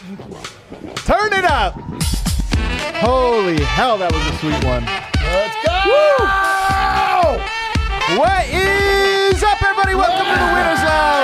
Turn it up. Holy hell, that was a sweet one. Let's go! Woo! What is up, everybody? Welcome to the Winners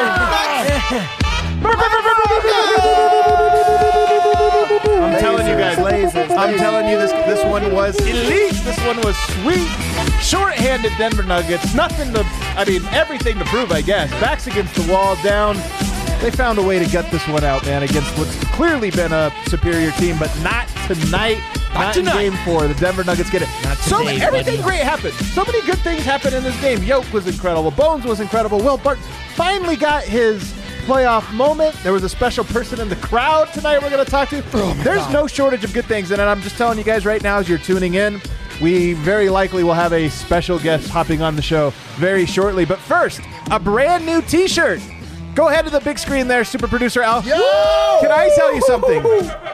Lounge. I'm telling you guys, I'm telling you, this one was elite. This one was sweet. Short-handed Denver Nuggets. Everything to prove, I guess. Backs against the wall, down. They found a way to get this one out, man, against what's clearly been a superior team, but not tonight. Not in game 4. The Denver Nuggets get it. Everything great happened. So many good things happened in this game. Yoke was incredible. Bones was incredible. Will Barton finally got his playoff moment. There was a special person in the crowd tonight we're going to talk to. There's no shortage of good things. And I'm just telling you guys right now as you're tuning in, we very likely will have a special guest hopping on the show very shortly. But first, a brand new T-shirt. Go ahead to the big screen there, super producer Al. Yo! Can I tell you something?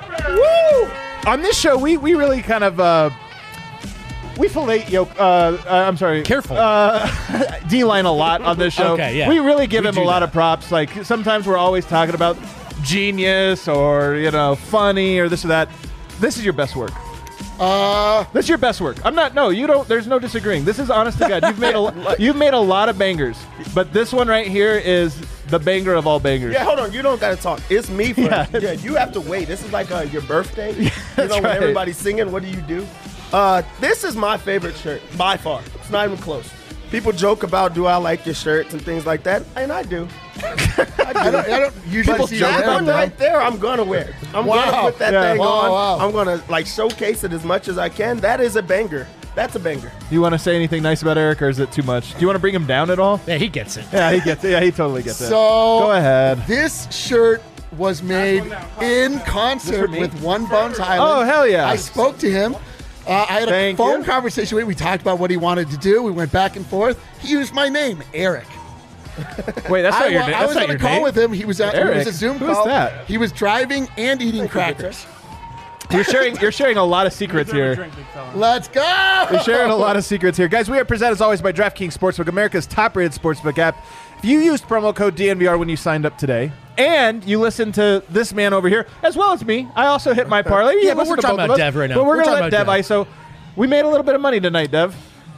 Woo! On this show, we really kind of we fillet Yoke. I'm sorry. Careful. D-line a lot on this show. Okay, yeah. We really give him a lot of props. Like sometimes we're always talking about genius or funny or this or that. This is your best work. This is your best work. I'm not. No, you don't. There's no disagreeing. This is honest to God. You've made a lot of bangers, but this one right here is the banger of all bangers. Yeah, hold on. You don't got to talk. It's me first. Yeah. Yeah, you have to wait. This is like your birthday. That's when right. everybody's singing, what do you do? This is my favorite shirt by far. It's not even close. People joke about, do I like your shirts and things like that, and I do. I don't usually But see that you one wearing right there, I'm gonna wear. I'm gonna put that thing on. I'm gonna showcase it as much as I can. That is a banger. That's a banger. Do you want to say anything nice about Eric, or is it too much? Do you want to bring him down at all? Yeah, he gets it. Yeah, he gets it. Yeah, he totally gets it. So Go ahead. This shirt was made in concert me? with One Bones Highland. Oh, hell yeah. I spoke to him. I had a Thank phone you. conversation with him. We talked about what he wanted to do. We went back and forth. He used my name, Eric. Wait, that's not your name. I That's was not on a your call name. with him. He was at Eric? it was a Zoom Who is call. that? He was driving and eating crackers. You're sharing a lot of secrets here. Let's go! You're sharing a lot of secrets here. Guys, we are presented as always by DraftKings Sportsbook, America's top-rated sportsbook app. If you used promo code DNVR when you signed up today, and you listened to this man over here, as well as me, I also hit my parlay. Yeah, but listen we're to talking both of about us. Dev right now. But we're We're going to talking let Dev about ISO. We made a little bit of money tonight, Dev.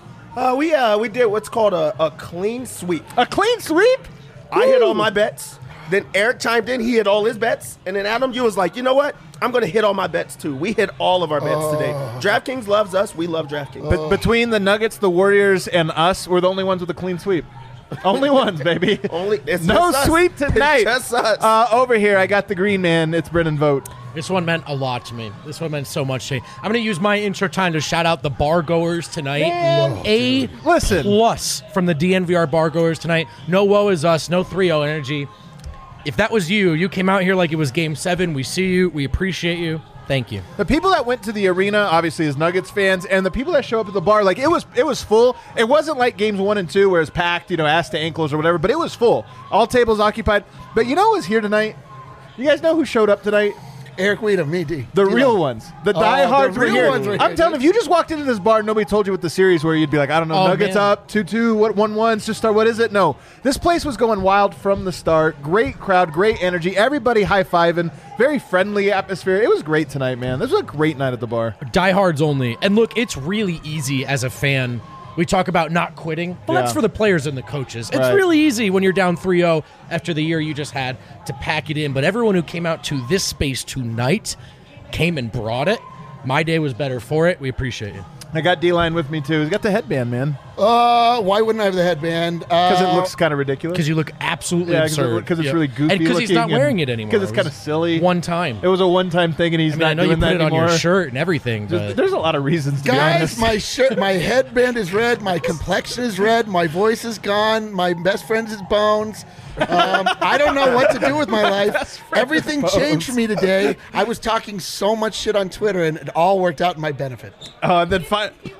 We did what's called a clean sweep. A clean sweep? I hit all my bets. Then Eric chimed in. He hit all his bets. And then Adam, you was like, you know what? I'm going to hit all my bets, too. We hit all of our bets today. DraftKings loves us. We love DraftKings. But between the Nuggets, the Warriors, and us, we're the only ones with a clean sweep. Only ones, baby. It's No just us. sweep tonight. It's just us. Over here, I got the green man. It's Brennan Vogt. This one meant a lot to me. This one meant so much to me. I'm going to use my intro time to shout out the bar goers tonight. Listen. Plus from the DNVR bar goers tonight. No woe is us. No 3-0 energy. If that was you, you came out here like it was Game 7. We see you. We appreciate you. Thank you. The people that went to the arena, obviously, as Nuggets fans, and the people that show up at the bar, like it was full. It wasn't like games 1 and 2 where it's packed, ass to ankles or whatever, but it was full. All tables occupied. But you know who was here tonight? You guys know who showed up tonight? Eric Weedham, me, D. The real ones. The diehards the were real here. ones were here, I'm telling you, dude. if you just walked into this bar and nobody told you what the series were, you'd be like, I don't know, Oh, Nuggets man. up, 2-2, what 1-1, just start, what is it? No. This place was going wild from the start. Great crowd, great energy. Everybody high-fiving. Very friendly atmosphere. It was great tonight, man. This was a great night at the bar. Diehards only. And look, it's really easy as a fan. We talk about not quitting. Well, that's Yeah. for the players and the coaches. It's Right. really easy when you're down 3-0 after the year you just had to pack it in. But everyone who came out to this space tonight came and brought it. My day was better for it. We appreciate you. I got D-Line with me, too. He's got the headband, man, Why wouldn't I have the headband? because it looks kind of ridiculous. Because you look absolutely Yeah, absurd. because it's really goofy And because he's looking not wearing it anymore. Because it's It kind was of silly. One time. It was a one-time thing, and he's I mean, I not know you doing put that it on anymore. your shirt and everything, but There's a lot of reasons, to be Guys, honest. my headband is red. My complexion is red. My voice is gone. My best friend is Bones. I don't know what to do with my life. Everything changed for me today. I was talking so much shit on Twitter, and it all worked out in my benefit. And then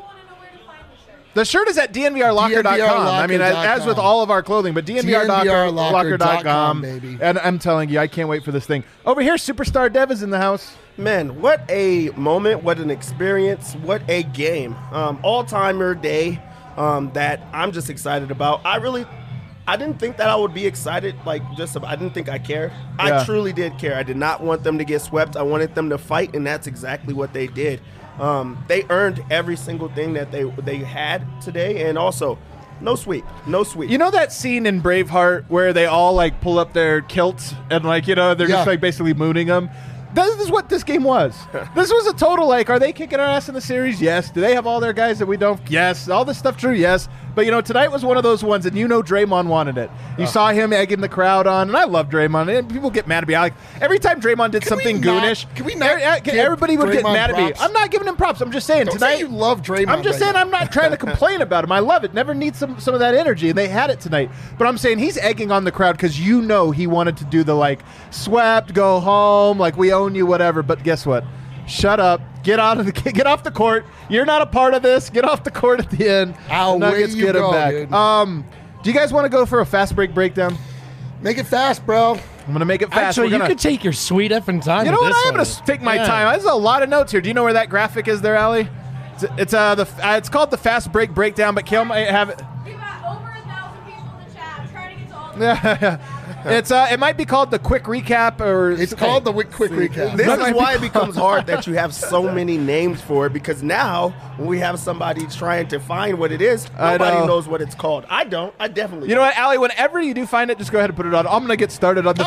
the shirt is at DNVRlocker.com. I mean, as with all of our clothing, but DNVRlocker.com, baby. And I'm telling you, I can't wait for this thing. Over here, Superstar Dev is in the house. Man, what a moment, what an experience, what a game. All-timer day that I'm just excited about. I didn't think that I would be excited. I didn't think I cared. Yeah. I truly did care. I did not want them to get swept. I wanted them to fight, and that's exactly what they did. They earned every single thing that they had today, and also no sweep. You know that scene in Braveheart where they all like pull up their kilts and they're just like basically mooning them? This is what this game was. This was a total like, are they kicking our ass in the series? Yes. Do they have all their guys that we don't? Yes. All this stuff true? Yes. But, tonight was one of those ones, and Draymond wanted it. You saw him egging the crowd on, and I love Draymond. And people get mad at me. Every time Draymond did something goonish, everybody would get mad at me. I'm not giving him props. I'm just saying tonight. You love Draymond. I'm just saying I'm not trying to complain about him. I love it. Never need some of that energy, and they had it tonight. But I'm saying he's egging on the crowd because he wanted to do the swept, go home, we own you, whatever. But guess what? Shut up. Get off the court. You're not a part of this. Get off the court at the end. Nuggets get him back. Dude. Do you guys want to go for a fast break breakdown? Make it fast, bro. I'm going to make it fast. Actually, you could take your sweet effing time. You know what? I'm going to take my time. There's a lot of notes here. Do you know where that graphic is there, Allie? It's called the fast break breakdown, but Kale might have it. We got over 1,000 people in the chat. I'm trying to get to all of them. It might be called the quick recap, or it's called the quick recap. This is why it becomes hard that you have so many names for it, because now when we have somebody trying to find what it is, nobody knows what it's called. I don't. I definitely. You know what, Allie? Whenever you do find it, just go ahead and put it on. I'm gonna get started on the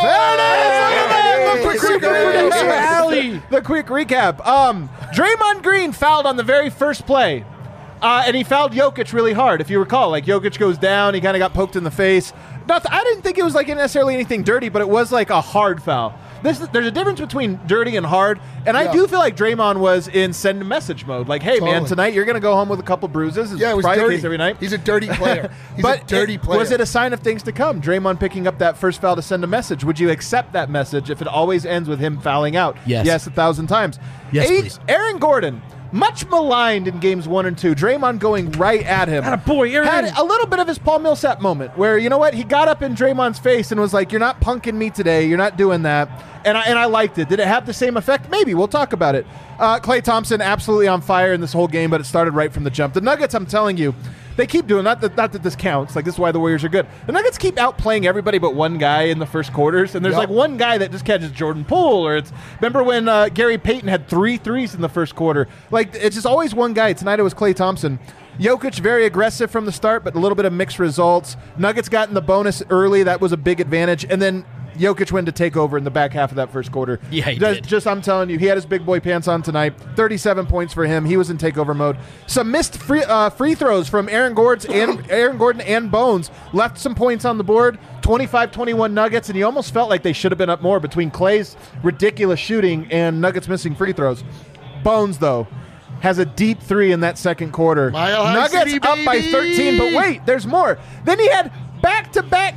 the quick recap. Draymond Green fouled on the very first play. And he fouled Jokic really hard, if you recall. Jokic goes down, he kind of got poked in the face. I didn't think it was necessarily anything dirty, but it was a hard foul. There's a difference between dirty and hard, and I do feel like Draymond was in send a message mode. Hey, man, tonight you're going to go home with a couple bruises. It's it was probably dirty. The case every night. He's a dirty player. Was it a sign of things to come? Draymond picking up that first foul to send a message. Would you accept that message if it always ends with him fouling out? Yes. Yes, 1,000 times. Yes, please. Aaron Gordon. Much maligned in games 1 and 2. Draymond going right at him. Aaron. Had a little bit of his Paul Millsap moment where, you know what, he got up in Draymond's face and was like, you're not punking me today. You're not doing that. And I liked it. Did it have the same effect? Maybe. We'll talk about it. Klay Thompson absolutely on fire in this whole game, but it started right from the jump. The Nuggets, I'm telling you, they keep doing not that this counts. This is why the Warriors are good. The Nuggets keep outplaying everybody but one guy in the first quarters, and there's one guy that just catches Jordan Poole, or remember when Gary Payton had 3 threes in the first quarter. It's just always one guy. Tonight it was Klay Thompson. Jokic very aggressive from the start, but a little bit of mixed results. Nuggets got in the bonus early. That was a big advantage, and then Jokic went to take over in the back half of that first quarter. Yeah, he did. I'm telling you, he had his big boy pants on tonight. 37 points for him. He was in takeover mode. Some missed free throws from Aaron Gordon and Bones left some points on the board. 25-21 Nuggets, and you almost felt like they should have been up more between Klay's ridiculous shooting and Nuggets missing free throws. Bones, though, has a deep 3 in that second quarter. Nuggets up by 13, but wait, there's more. Then he had back-to-back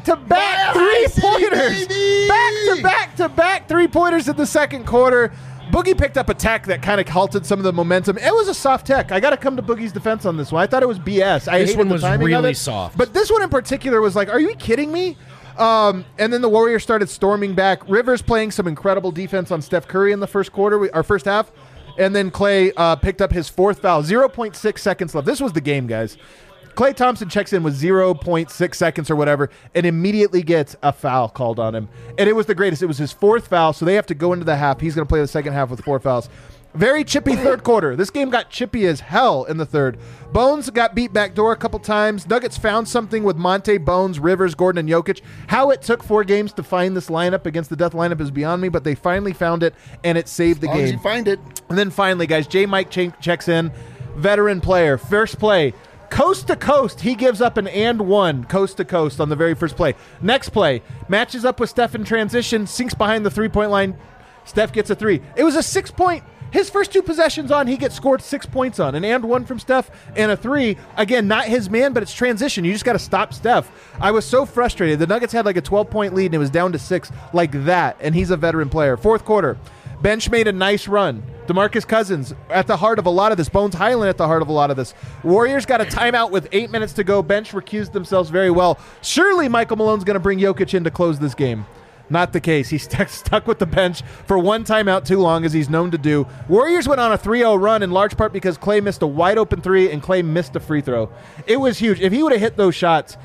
3-pointers. Back-to-back 3-pointers in the second quarter. Boogie picked up a tech that kind of halted some of the momentum. It was a soft tech. I got to come to Boogie's defense on this one. I thought it was BS. This one was really soft. But this one in particular was are you kidding me? And then the Warriors started storming back. Rivers playing some incredible defense on Steph Curry in the first half. And then Klay picked up his 4th foul. 0.6 seconds left. This was the game, guys. Klay Thompson checks in with 0.6 seconds or whatever and immediately gets a foul called on him. And it was the greatest. It was his 4th foul, so they have to go into the half. He's going to play the second half with 4 fouls. Very chippy third quarter. This game got chippy as hell in the third. Bones got beat back door a couple times. Nuggets found something with Monte, Bones, Rivers, Gordon, and Jokic. How it took 4 games to find this lineup against the death lineup is beyond me, but they finally found it, and it saved the game. As long as you find it. And then finally, guys, J. Mike checks in. Veteran player. First play. Coast to coast, he gives up an and one coast to coast on the very first play. Next play, matches up with Steph in transition, sinks behind the 3-point line. Steph gets a 3. It was a 6-point. His first 2 possessions on, he gets scored 6 points on. An and one from Steph and a 3. Again, not his man, but it's transition. You just got to stop Steph. I was so frustrated. The Nuggets had a 12-point lead, and it was down to 6 like that, and he's a veteran player. Fourth quarter, bench made a nice run. DeMarcus Cousins at the heart of a lot of this. Bones Highland at the heart of a lot of this. Warriors got a timeout with 8 minutes to go. Bench recused themselves very well. Surely Michael Malone's going to bring Jokic in to close this game. Not the case. He's stuck with the bench for one timeout too long, as he's known to do. Warriors went on a 3-0 run in large part because Klay missed a wide open three and Klay missed a free throw. It was huge. If he would have hit those shots,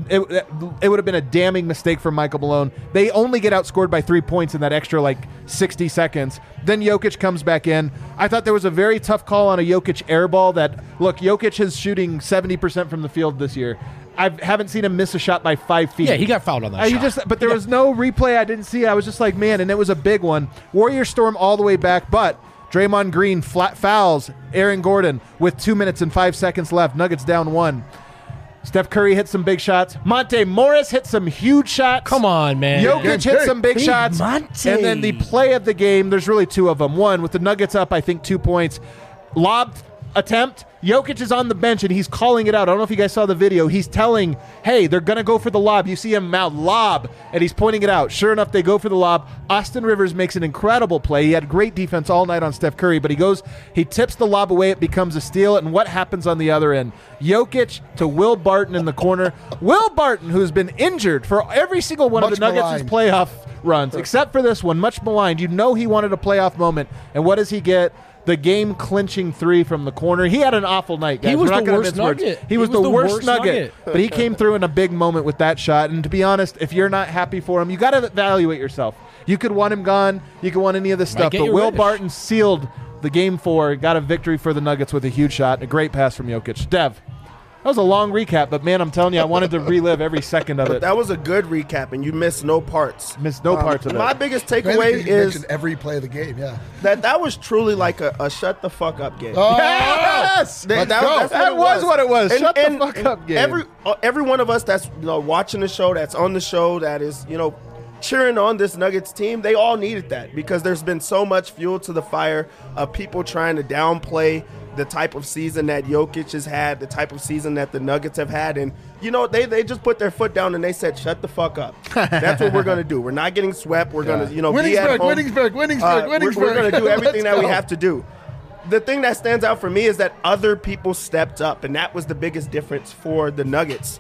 it would have been a damning mistake from Michael Malone. They only get outscored by 3 points in that extra 60 seconds. Then Jokic comes back in. I thought there was a very tough call on a Jokic air ball that, look, Jokic is shooting 70% from the field this year. I haven't seen him miss a shot by 5 feet. Yeah, he got fouled on that shot. But there was no replay I didn't see. I was just like, man, and it was a big one. Warriors storm all the way back, but Draymond Green fouls Aaron Gordon with 2 minutes and 5 seconds left. Nuggets down 1. Steph Curry hit some big shots. Monte Morris hit some huge shots. Come on, man. Jokic hit some big shots. Monte. And then the play of the game, there's really 2 of them. One, with the Nuggets up, I think 2 points. Lob attempt. Jokic is on the bench and he's calling it out. I don't know if you guys saw the video. He's telling, hey, they're going to go for the lob. You see him mouth lob, and he's pointing it out. Sure enough, they go for the lob. Austin Rivers makes an incredible play. He had great defense all night on Steph Curry, but he tips the lob away. It becomes a steal, and what happens on the other end? Jokic to Will Barton in the corner. Will Barton, who's been injured for every single one of the Nuggets' playoff runs, except for this one, much maligned. You know he wanted a playoff moment, and what does he get? The game-clinching 3 from the corner. He had an awful night, guys. He was the worst Nugget. He was the worst Nugget. But he came through in a big moment with that shot. And to be honest, if you're not happy for him, you got to evaluate yourself. You could want him gone. You could want any of this stuff. But Will Barton sealed the Game 4, got a victory for the Nuggets with a huge shot. A great pass from Jokic. Dev. That was a long recap, but man, I'm telling you, I wanted to relive every second of it. That was a good recap, and you missed no parts. Missed no parts of it. My biggest takeaway is every play of the game. Yeah, that was truly like a shut the fuck up game. Oh, yes, that was what it was. Shut the fuck up game. Every one of us that's watching the show, that's on the show, that is cheering on this Nuggets team, they all needed that because there's been so much fuel to the fire of people trying to downplay the type of season that Jokic has had, the type of season that the Nuggets have had. And, they just put their foot down and they said, shut the fuck up. That's what we're going to do. We're not getting swept. We're going to, be at home. Winningsburg. We're going to do everything that we have to do. The thing that stands out for me is that other people stepped up, and that was the biggest difference for the Nuggets.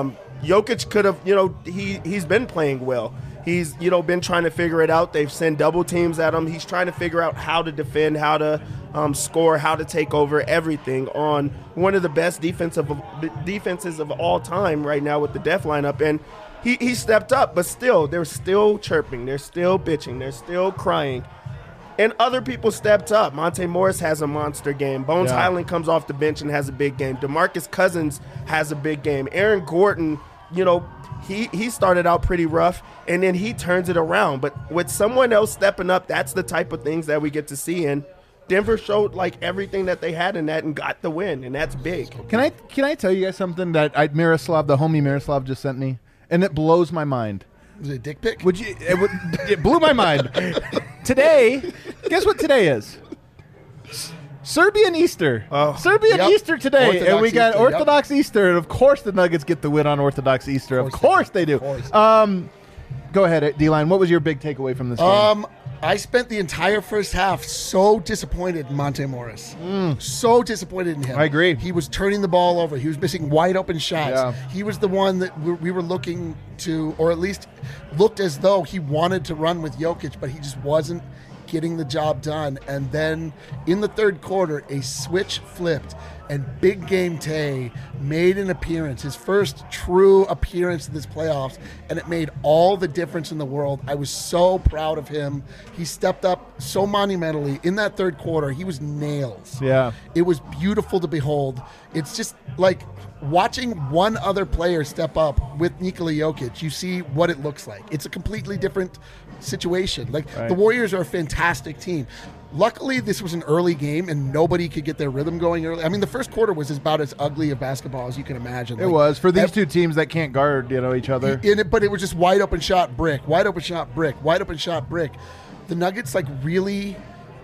Jokic could have, he's been playing well. He's, been trying to figure it out. They've sent double teams at him. He's trying to figure out how to defend, how to score, how to take over everything on one of the best defenses of all time right now with the Def lineup. And he stepped up, but still, they're still chirping. They're still bitching. They're still crying. And other people stepped up. Monte Morris has a monster game. Bones Highland comes off the bench and has a big game. DeMarcus Cousins has a big game. Aaron Gordon, he started out pretty rough, and then he turns it around. But with someone else stepping up, that's the type of things that we get to see. And Denver showed everything that they had in that and got the win, and that's big. Can I tell you guys something that the homie Miroslav just sent me, and it blows my mind. Was it a dick pic? It blew my mind. Today, guess what today is? Serbian Easter. Easter today. Orthodox and we got Easter, Orthodox Easter, and of course the Nuggets get the win on Orthodox Easter. Of course they do. Go ahead, D-Line. What was your big takeaway from this game? I spent the entire first half so disappointed in Monte Morris. So disappointed in him. I agree. He was turning the ball over. He was missing wide open shots. Yeah. He was the one that we were looking to, or at least looked as though he wanted to run with Jokic, but he just wasn't getting the job done. And then in the third quarter, a switch flipped, and Big Game Tay made an appearance, his first true appearance in this playoffs, and it made all the difference in the world. I was so proud of him. He stepped up so monumentally in that third quarter. He was nails. Yeah. It was beautiful to behold. It's just like watching one other player step up with Nikola Jokic. You see what it looks like. It's a completely different situation. The Warriors are a fantastic team. Luckily, this was an early game, and nobody could get their rhythm going early. I mean, the first quarter was about as ugly of basketball as you can imagine. It was for these two teams that can't guard, each other. But it was just wide open shot, brick, wide open shot, brick, wide open shot, brick. The Nuggets really,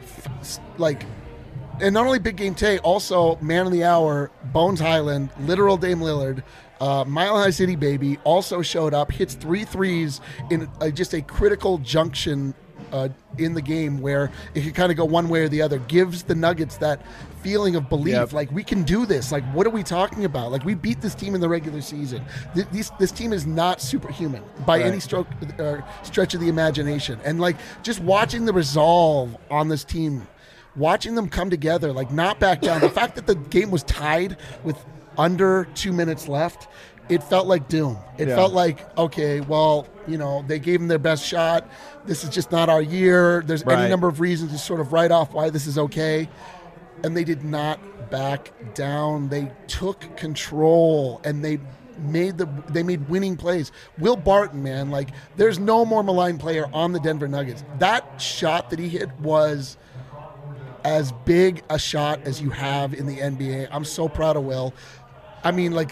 and not only Big Game Tay, also man of the hour, Bones Highland, literal Dame Lillard. Mile High City Baby also showed up, hits 3 threes in just a critical junction in the game where it could kind of go one way or the other. Gives the Nuggets that feeling of belief. Yep. Like, we can do this. Like, what are we talking about? Like, we beat this team in the regular season. This team is not superhuman by any stretch of the imagination. And, like, just watching the resolve on this team, watching them come together, like, not back down. The fact that the game was tied with under 2 minutes left, it felt like doom. It felt like, okay, well, they gave them their best shot. This is just not our year. There's any number of reasons to sort of write off why this is okay. And they did not back down. They took control, and they made winning plays. Will Barton, man, like, there's no more maligned player on the Denver Nuggets. That shot that he hit was as big a shot as you have in the NBA. I'm so proud of Will. I mean, like,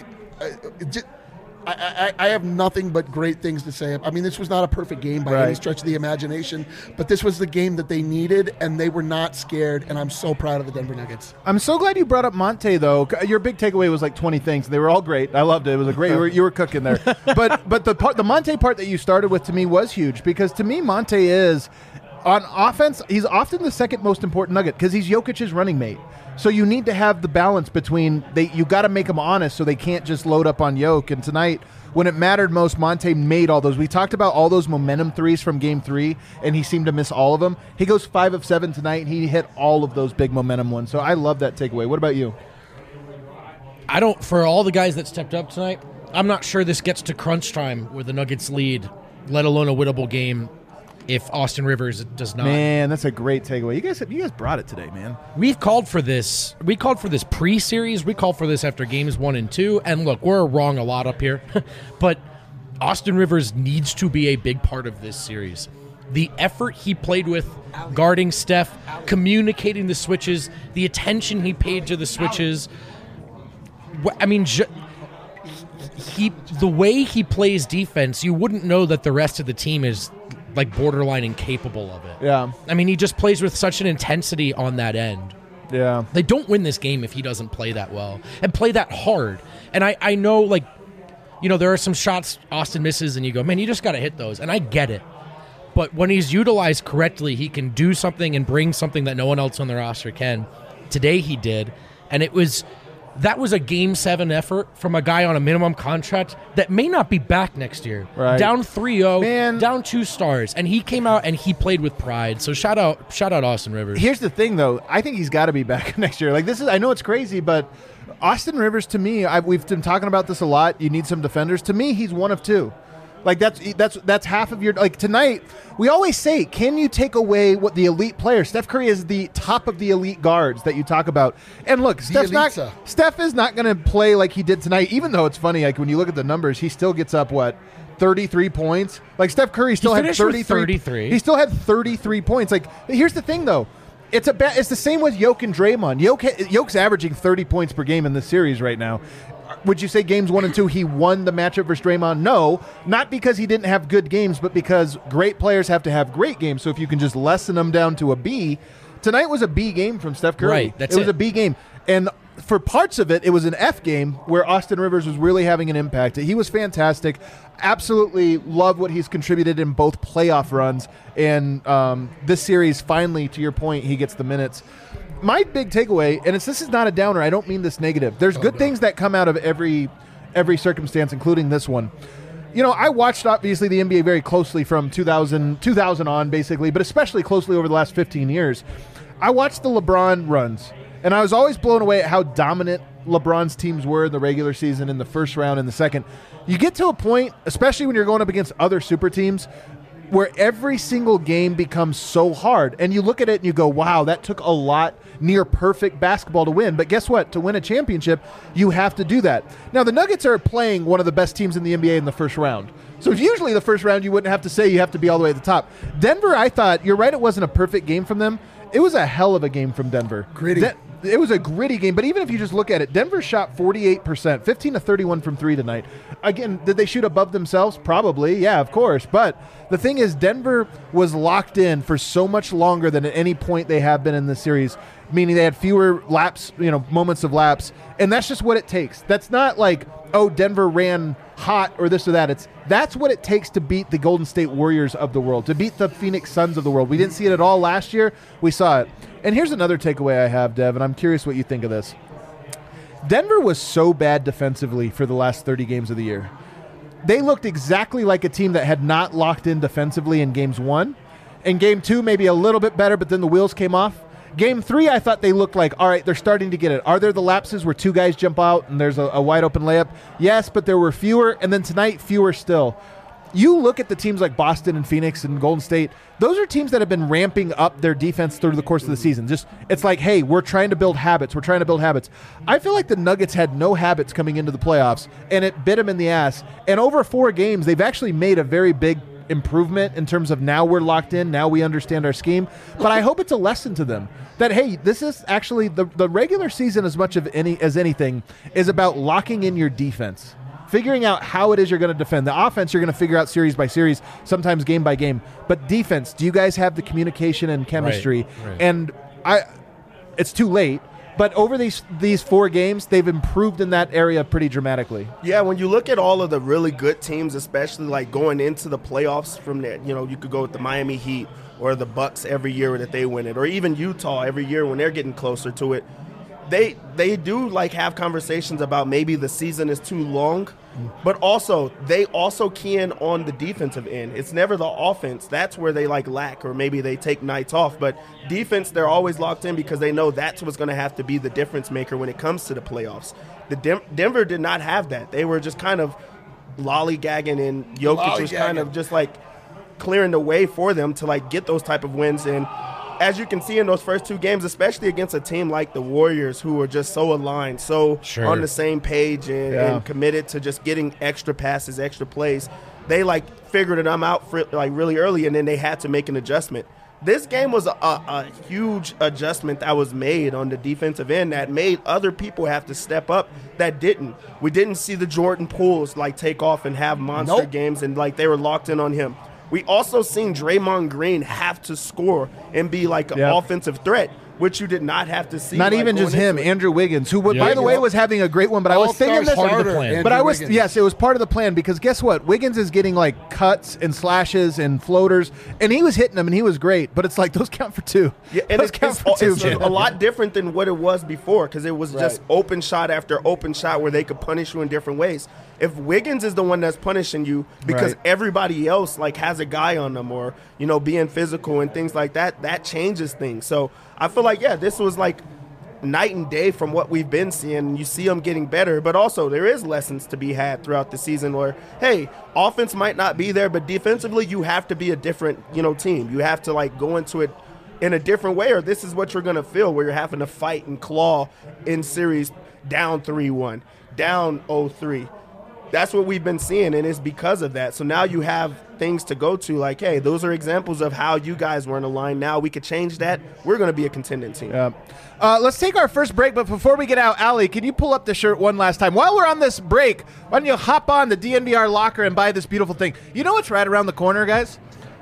I have nothing but great things to say. I mean, this was not a perfect game by any stretch of the imagination, but this was the game that they needed, and they were not scared, and I'm so proud of the Denver Nuggets. I'm so glad you brought up Monte, though. Your big takeaway was like 20 things. They were all great. I loved it. It was a great. You were cooking there. But the Monte part that you started with, to me, was huge, because to me, Monte is, on offense, he's often the second most important Nugget because he's Jokic's running mate. So you need to have the balance between you got to make them honest so they can't just load up on Jokic. And tonight, when it mattered most, Monte made all those. We talked about all those momentum threes from Game 3, and he seemed to miss all of them. He goes 5 of 7 tonight, and he hit all of those big momentum ones. So I love that takeaway. What about you? For all the guys that stepped up tonight, I'm not sure this gets to crunch time where the Nuggets lead, let alone a winnable game, if Austin Rivers does not. Man, that's a great takeaway. You guys brought it today, man. We've called for this. We called for this pre-series. We called for this after games 1 and 2. And look, we're wrong a lot up here, but Austin Rivers needs to be a big part of this series. The effort he played with guarding Steph, communicating the switches, the attention he paid to the switches. I mean, the way he plays defense, you wouldn't know that the rest of the team is like borderline incapable of it. Yeah. I mean, he just plays with such an intensity on that end. Yeah. They don't win this game if he doesn't play that well and play that hard. And I know, like, there are some shots Austin misses and you go, man, you just got to hit those. And I get it. But when he's utilized correctly, he can do something and bring something that no one else on the roster can. Today he did. And that was a Game 7 effort from a guy on a minimum contract that may not be back next year. Right. Down 3-0, Man. down 2 stars, and he came out and he played with pride. So shout out Austin Rivers. Here's the thing, though. I think he's got to be back next year. Like, I know it's crazy, but Austin Rivers, to me, we've been talking about this a lot. You need some defenders. To me, he's one of 2. Like, that's half of your, like, tonight, we always say, can you take away what the elite player? Steph Curry is the top of the elite guards that you talk about. And look, Steph is not going to play like he did tonight, even though it's funny, like, when you look at the numbers, he still gets up, 33 points? Like, Steph Curry still had 33. He still had 33 points. Like, here's the thing, though. It's the same with Jokic and Draymond. Jokic's averaging 30 points per game in this series right now. Would you say games 1 and 2 he won the matchup versus Draymond? No, not because he didn't have good games, but because great players have to have great games. So if you can just lessen them down to a B, tonight was a B game from Steph Curry. Right, it was a B game. And for parts of it, it was an F game where Austin Rivers was really having an impact. He was fantastic. Absolutely love what he's contributed in both playoff runs. And this series, finally, to your point, he gets the minutes. My big takeaway, and this is not a downer, I don't mean this negative. There's good things that come out of every circumstance, including this one. I watched, obviously, the NBA very closely from 2000 on, basically, but especially closely over the last 15 years. I watched the LeBron runs, and I was always blown away at how dominant LeBron's teams were in the regular season, in the first round, in the second. You get to a point, especially when you're going up against other super teams, where every single game becomes so hard. And you look at it and you go, wow, that took a lot near perfect basketball to win. But guess what? To win a championship, you have to do that. Now, the Nuggets are playing one of the best teams in the NBA in the first round. So usually the first round, you wouldn't have to say you have to be all the way at the top. Denver, I thought, you're right, it wasn't a perfect game from them. It was a hell of a game from Denver. Gritty. It was a gritty game, but even if you just look at it, Denver shot 48%, 15 to 31 from 3 tonight. Again, did they shoot above themselves? Probably, yeah, of course. But the thing is, Denver was locked in for so much longer than at any point they have been in this series, meaning they had fewer laps, moments of laps, and that's just what it takes. That's not like, oh, Denver ran hot or this or that. That's what it takes to beat the Golden State Warriors of the world, to beat the Phoenix Suns of the world. We didn't see it at all last year. We saw it. And here's another takeaway I have, Dev, and I'm curious what you think of this. Denver was so bad defensively for the last 30 games of the year. They looked exactly like a team that had not locked in defensively in games 1. In game 2, maybe a little bit better, but then the wheels came off. Game 3, I thought they looked like, all right, they're starting to get it. Are there the lapses where 2 guys jump out and there's a wide open layup? Yes, but there were fewer, and then tonight, fewer still. You look at the teams like Boston and Phoenix and Golden State, those are teams that have been ramping up their defense through the course of the season. It's like, hey, we're trying to build habits. I feel like the Nuggets had no habits coming into the playoffs, and it bit them in the ass. And over 4 games, they've actually made a very big improvement in terms of now we're locked in, now we understand our scheme. But I hope it's a lesson to them that, hey, this is actually the regular season as much as anything is about locking in your defense. Figuring out how it is you're going to defend. The offense you're going to figure out series by series, sometimes game by game. But defense, do you guys have the communication and chemistry? Right. And it's too late. But over these 4 games, they've improved in that area pretty dramatically. Yeah, when you look at all of the really good teams, especially like going into the playoffs from there, you could go with the Miami Heat or the Bucks every year that they win it, or even Utah every year when they're getting closer to it. They do like have conversations about maybe the season is too long, but also they also key in on the defensive end. It's never the offense. That's where they like lack, or maybe they take nights off. But defense, they're always locked in because they know that's what's going to have to be the difference maker when it comes to the playoffs. Denver did not have that. They were just kind of lollygagging, and Jokic was kind of just like clearing the way for them to like get those type of wins. And as you can see in those first 2 games, especially against a team like the Warriors, who are just so aligned, so on the same page and committed to just getting extra passes, extra plays, they like figured them out for, like really early, and then they had to make an adjustment. This game was a huge adjustment that was made on the defensive end that made other people have to step up that didn't. We didn't see the Jordan Pooles like take off and have monster games, and like they were locked in on him. We also seen Draymond Green have to score and be like an offensive threat, which you did not have to see. Not even just him, Andrew Wiggins, who, by the way, was having a great one. But I was thinking this part of the plan. But it was part of the plan, because guess what? Wiggins is getting like cuts and slashes and floaters, and he was hitting them, and he was great. But it's like those count for 2. Yeah, and it's a lot different than what it was before, because it was just open shot after open shot where they could punish you in different ways. If Wiggins is the one that's punishing you because everybody else like has a guy on them, or being physical and things like that, that changes things. So I feel like this was like night and day from what we've been seeing. You see them getting better, but also there is lessons to be had throughout the season where, hey, offense might not be there, but defensively you have to be a different team. You have to like go into it in a different way, or this is what you're going to feel, where you're having to fight and claw in series down 3-1, down 0-3. That's what we've been seeing, and it's because of that. So now you have things to go to, like, hey, those are examples of how you guys weren't aligned. Now we could change that. We're going to be a contending team. Let's take our first break, but before we get out, Allie, can you pull up the shirt one last time? While we're on this break, why don't you hop on the DNVR locker and buy this beautiful thing? You know what's right around the corner, guys?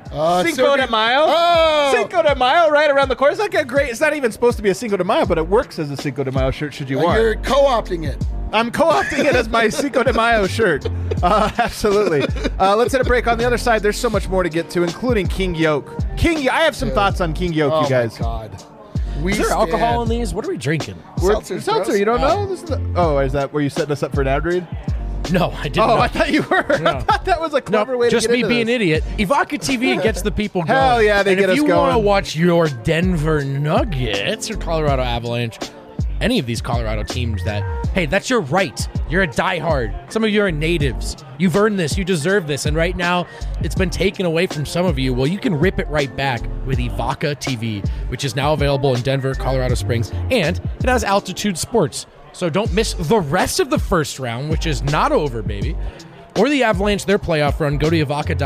Cinco de Mayo. Oh! Cinco de Mayo right around the corner. It's like a great, it's not even supposed to be a Cinco de Mayo, but it works as a Cinco de Mayo shirt should you want. You're co-opting it. I'm co-opting it as my Cinco de Mayo shirt. Absolutely. Let's hit a break. On the other side, there's so much more to get to, including King Yoke. I have some thoughts on King Yoke, you guys. Oh, my God. Is there alcohol in these? What are we drinking? Seltzer, you don't know? Is that where you setting us up for an ad read? No, I didn't. I thought you were. No. I thought that was a clever way to get into this. Just me being an idiot. Ivanka TV gets the people going. Hell yeah, they get us going. And if you want to watch your Denver Nuggets or Colorado Avalanche, any of these Colorado teams hey, that's your right. You're a diehard. Some of you are natives. You've earned this. You deserve this. And right now, it's been taken away from some of you. Well, you can rip it right back with Ivanka TV, which is now available in Denver, Colorado Springs, and it has Altitude Sports. So don't miss the rest of the first round, which is not over, baby. Or the Avalanche, their playoff run. Go to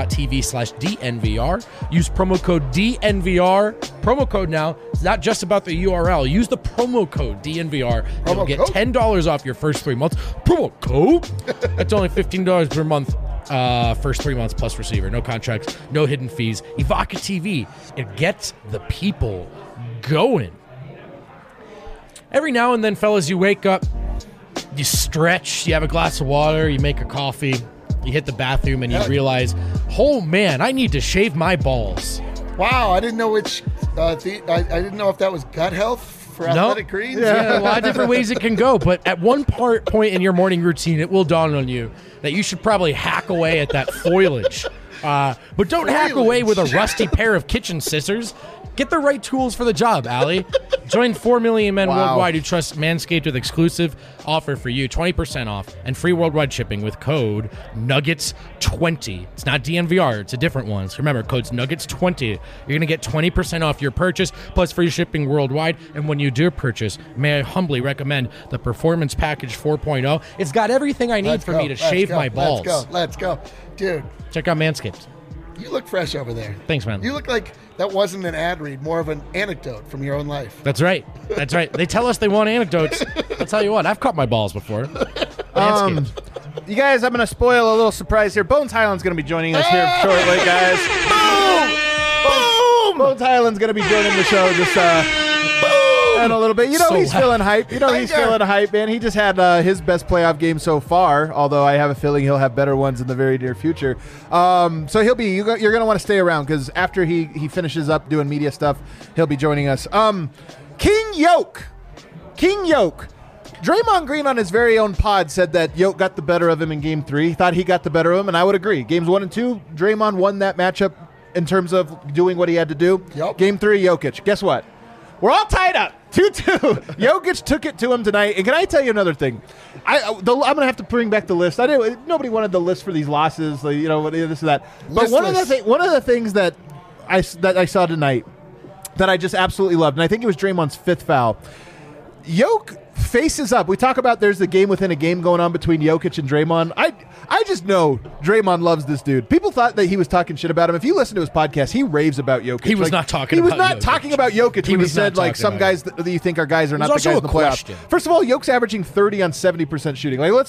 Ivanka.tv/DNVR. Use promo code DNVR. Promo code now. It's not just about the URL. Use the promo code DNVR. You'll get $10 off your first 3 months. Promo code. That's only $15 per month. First 3 months plus receiver. No contracts. No hidden fees. Ivanka TV. It gets the people going. Every now and then, fellas, you wake up, you stretch, you have a glass of water, you make a coffee, You hit the bathroom and you realize, oh man, I need to shave my balls. Wow, I didn't know which. I didn't know if that was gut health for Athletic Greens. Yeah, a lot of different ways it can go. But at one point in your morning routine, it will dawn on you that you should probably hack away at that foliage. But don't hack away with a rusty pair of kitchen scissors. Get the right tools for the job, Allie. Join 4 million men worldwide who trust Manscaped with exclusive offer for you. 20% off and free worldwide shipping with code NUGGETS20. It's not DNVR. It's a different one. So remember, code's NUGGETS20. You're going to get 20% off your purchase plus free shipping worldwide. And when you do purchase, may I humbly recommend the Performance Package 4.0. It's got everything I need for me to shave my balls. Let's go. Dude. Check out Manscaped. You look fresh over there. Thanks, man. You look like that wasn't an ad read, more of an anecdote from your own life. That's right. That's right. They tell us they want anecdotes. I'll tell you what, I've cut my balls before. You guys, I'm going to spoil a little surprise here. Bones Highland's going to be joining us here shortly, guys. Boom! Bones Highland's going to be joining the show just in a little bit. You know, he's feeling hype. You know, he's feeling hype, man. He just had his best playoff game so far, although I have a feeling he'll have better ones in the very near future. So you're going to want to stay around because after he finishes up doing media stuff, he'll be joining us. King Yoke. Draymond Green on his very own pod said that Yoke got the better of him in Game 3. He thought he got the better of him, and I would agree. Games 1 and 2, Draymond won that matchup in terms of doing what he had to do. Yep. Game 3, Jokic. Guess what? We're all tied up. 2-2. Jokic took it to him tonight. And can I tell you another thing? I'm going to have to bring back the list. Nobody wanted the list for these losses, this and that. But one of the things that I saw tonight that I just absolutely loved, and I think it was Draymond's 5th foul. Yoke faces up. We talk about there's the game within a game going on between Jokic and Draymond. I just know Draymond loves this dude. People thought that he was talking shit about him. If you listen to his podcast, he raves about Jokic. He was not talking about Jokic. He was not talking about Jokic when he said, like, some guys that you think are guys are not the guys in the playoffs. First of all, Jokic averaging 30 on 70% shooting. Like,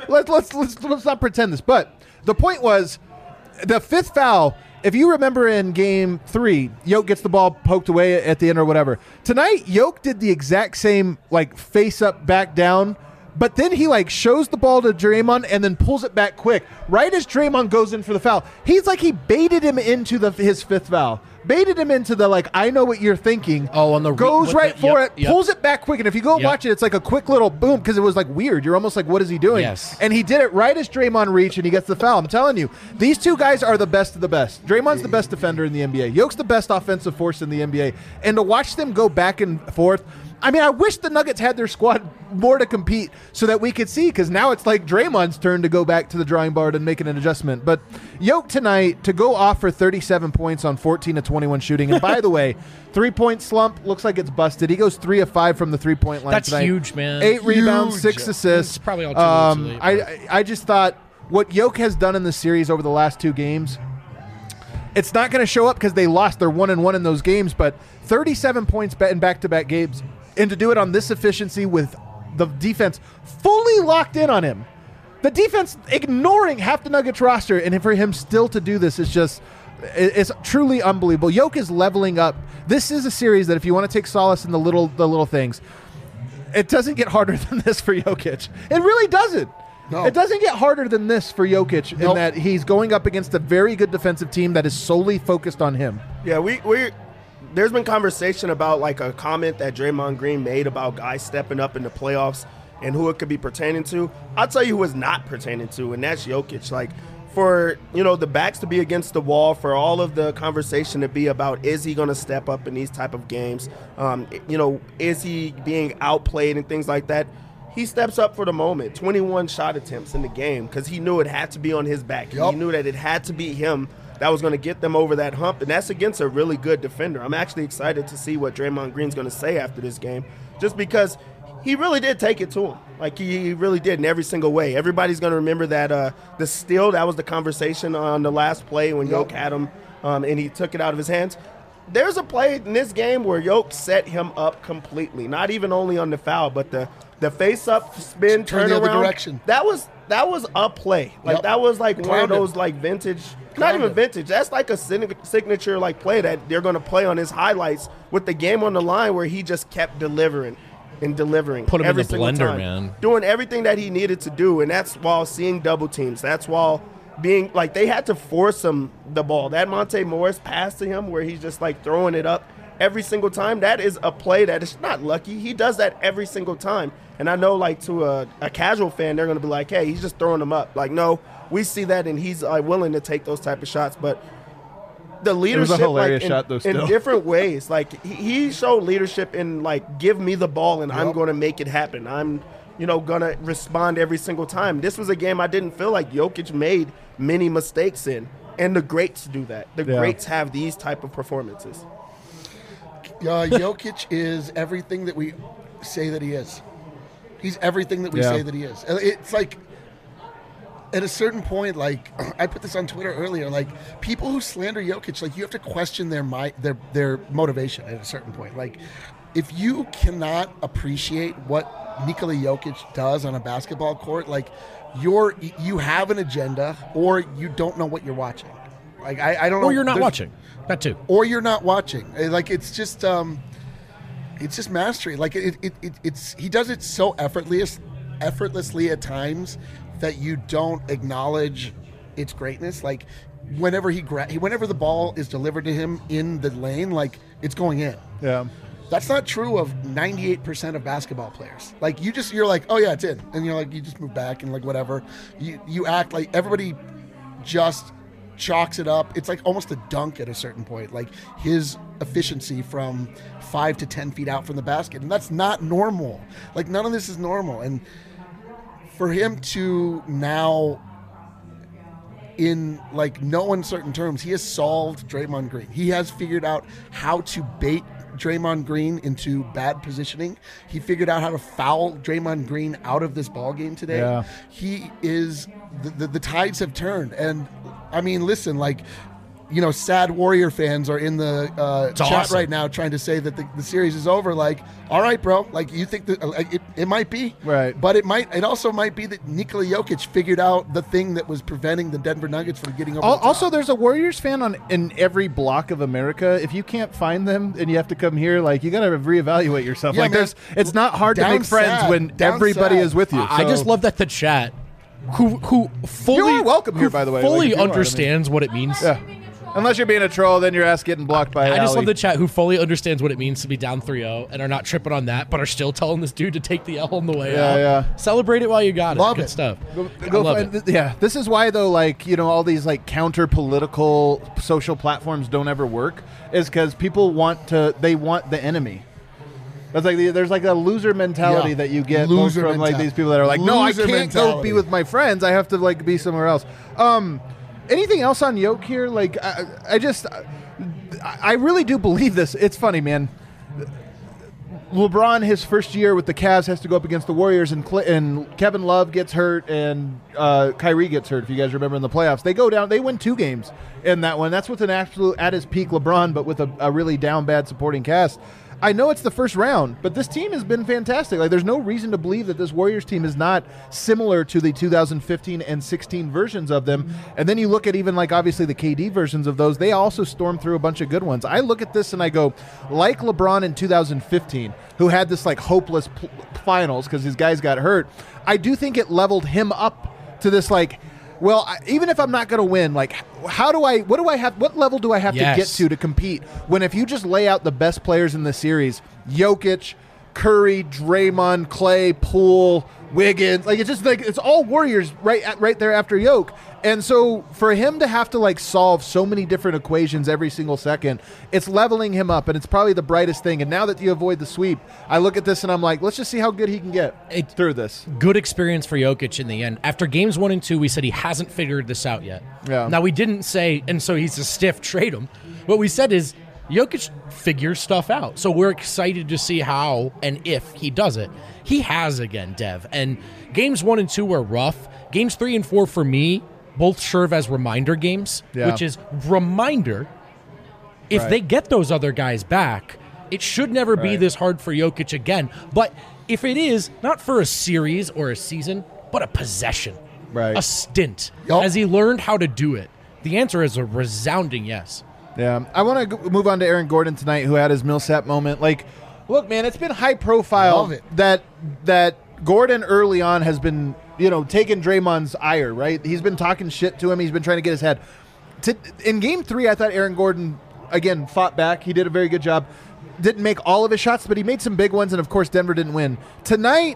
let's not pretend this. But the point was, the 5th foul, if you remember in Game 3, Yoke gets the ball poked away at the end or whatever. Tonight, Yoke did the exact same, like, face up, back down, but then he, like, shows the ball to Draymond and then pulls it back quick. Right as Draymond goes in for the foul, he's like he baited him into his 5th foul. Baited him into the, like, I know what you're thinking. Oh, on the goes right for it, pulls it back quick. And if you go watch it, it's like a quick little boom because it was, like, weird. You're almost like, what is he doing? Yes. And he did it right as Draymond reached and he gets the foul. I'm telling you, these two guys are the best of the best. Draymond's the best defender in the NBA. Yoke's the best offensive force in the NBA. And to watch them go back and forth, I mean, I wish the Nuggets had their squad more to compete so that we could see, because now it's like Draymond's turn to go back to the drawing board and make an adjustment. But Yoke tonight to go off for 37 points on 14 of 21 shooting. And by the way, 3-point slump looks like it's busted. He goes 3 of 5 from the 3-point line. That's tonight. huge, man. 8 rebounds, 6 assists. It's probably all too late. I just thought what Yoke has done in the series over the last 2 games, it's not going to show up because they lost. They're 1-1 in those games, but 37 points in back-to-back games. And to do it on this efficiency with the defense fully locked in on him. The defense ignoring half the Nuggets roster, and for him still to do this is just it's truly unbelievable. Yoke is leveling up. This is a series that if you want to take solace in the little things, it doesn't get harder than this for Jokic. It really doesn't. No. It doesn't get harder than this for Jokic in that he's going up against a very good defensive team that is solely focused on him. Yeah, there's been conversation about, like, a comment that Draymond Green made about guys stepping up in the playoffs and who it could be pertaining to. I'll tell you who it's not pertaining to, and that's Jokic. Like, for, the backs to be against the wall, for all of the conversation to be about, is he going to step up in these type of games? Is he being outplayed and things like that? He steps up for the moment. 21 shot attempts in the game because he knew it had to be on his back. Yep. He knew that it had to be him that was going to get them over that hump, and that's against a really good defender. I'm actually excited to see what Draymond Green's going to say after this game, just because he really did take it to him. Like, he really did in every single way. Everybody's going to remember that the steal, that was the conversation on the last play when Yoke had him and he took it out of his hands. There's a play in this game where Yoke set him up completely, not even only on the foul, but the face-up, spin, turn the around. other direction. That was a play. Like, that was like one of those, like, vintage – not even vintage. That's like a signature, like, play that they're going to play on his highlights with the game on the line where he just kept delivering and delivering. Put him every in the single blender, time, man. doing everything that he needed to do, and that's while seeing double teams. That's while being like they had to force him the ball. That Monte Morris pass to him where he's just like throwing it up every single time, that is a play that is not lucky. He does that every single time. And I know, like, to a casual fan, they're going to be like, hey, he's just throwing them up. Like, no, we see that, and he's willing to take those type of shots. But the leadership, it was a hilarious like, shot, though, still. in different ways. Like, he showed leadership in, like, give me the ball, and I'm going to make it happen. I'm, going to respond every single time. This was a game I didn't feel like Jokic made many mistakes in. And the greats do that. The greats have these type of performances. Jokic is everything that we say that he is. He's everything that we say that he is. It's like, at a certain point, like, I put this on Twitter earlier, like, people who slander Jokic, like, you have to question their motivation at a certain point. Like, if you cannot appreciate what Nikola Jokic does on a basketball court, like, you have an agenda, or you don't know what you're watching. Like, I don't know. Or you're not watching. That too. Or you're not watching. Like, it's just mastery. Like, it's he does it so effortlessly at times that you don't acknowledge its greatness. Like, whenever whenever the ball is delivered to him in the lane, like, it's going in. Yeah. That's not true of 98% of basketball players. Like, you're like, oh yeah, it's in, and you're like, you just move back and like whatever. You act like everybody just chalks it up. It's like almost a dunk at a certain point. Like, his efficiency from 5 to 10 feet out from the basket, and that's not normal. Like, none of this is normal. And for him to now, in like no uncertain terms, he has solved Draymond Green. He has figured out how to bait Draymond Green into bad positioning. He figured out how to foul Draymond Green out of this ball game today. Yeah. He is the tides have turned. And I mean, listen, like, sad Warrior fans are in the chat awesome right now trying to say that the series is over. Like, all right, bro. Like, you think that it might be, right? But it also might be that Nikola Jokic figured out the thing that was preventing the Denver Nuggets from getting over. Also, there's a Warriors fan in every block of America. If you can't find them and you have to come here, like, you got to reevaluate yourself. Yeah, like, man, it's not hard to make friends when everybody is with you. I just love that the chat, who fully, you are welcome here, by the way. fully like, if you understands what it means. Yeah. Unless you're being a troll, then your ass getting blocked by I just Allie. love the chat who fully understands what it means to be down 3-0 and are not tripping on that, but are still telling this dude to take the L on the way out. Yeah. Celebrate it while you got it. Love Good it. stuff. Go I love find- it. Yeah, this is why, though, like, all these, like, counter-political social platforms don't ever work, is because people want the enemy. That's like there's like a loser mentality that you get most from like these people that are like, no, I can't go be with my friends. I have to like be somewhere else. Anything else on Yoke here? Like, I really do believe this. It's funny, man. LeBron, his first year with the Cavs, has to go up against the Warriors, and Kevin Love gets hurt, and Kyrie gets hurt, if you guys remember in the playoffs. They go down. They win 2 games in that one. That's with an absolute at his peak LeBron, but with a really down bad supporting cast. I know it's the first round, but this team has been fantastic. Like, there's no reason to believe that this Warriors team is not similar to the 2015 and 16 versions of them. And then you look at even, like, obviously the KD versions of those. They also stormed through a bunch of good ones. I look at this and I go, like LeBron in 2015, who had this, like, hopeless finals because his guys got hurt, I do think it leveled him up to this, like, well, even if I'm not going to win, like, what level do I have to get to compete? When if you just lay out the best players in the series, Jokic, Curry, Draymond, Clay, Poole, Wiggins, like, it's just like it's all Warriors right there after Yoke. And so for him to have to like solve so many different equations every single second, it's leveling him up, and it's probably the brightest thing. And now that you avoid the sweep, I look at this and I'm like, let's just see how good he can get through this. Good experience for Jokic in the end. After games 1 and 2, we said he hasn't figured this out yet. Yeah. Now, we didn't say, and so he's a stiff, trade him. What we said is Jokic figures stuff out. So we're excited to see how and if he does it. He has again, Dev. And games 1 and 2 were rough. Games 3 and 4 for me both serve as reminder games, which is reminder. If they get those other guys back, it should never be this hard for Jokic again. But if it is, not for a series or a season, but a possession, a stint, has he learned how to do it? The answer is a resounding yes. Yeah. I want to move on to Aaron Gordon tonight, who had his Millsap moment. Like, look, man, it's been high profile that Gordon early on has been taken Draymond's ire, right? He's been talking shit to him. He's been trying to get his head. In Game 3, I thought Aaron Gordon, again, fought back. He did a very good job. Didn't make all of his shots, but he made some big ones, and, of course, Denver didn't win. Tonight,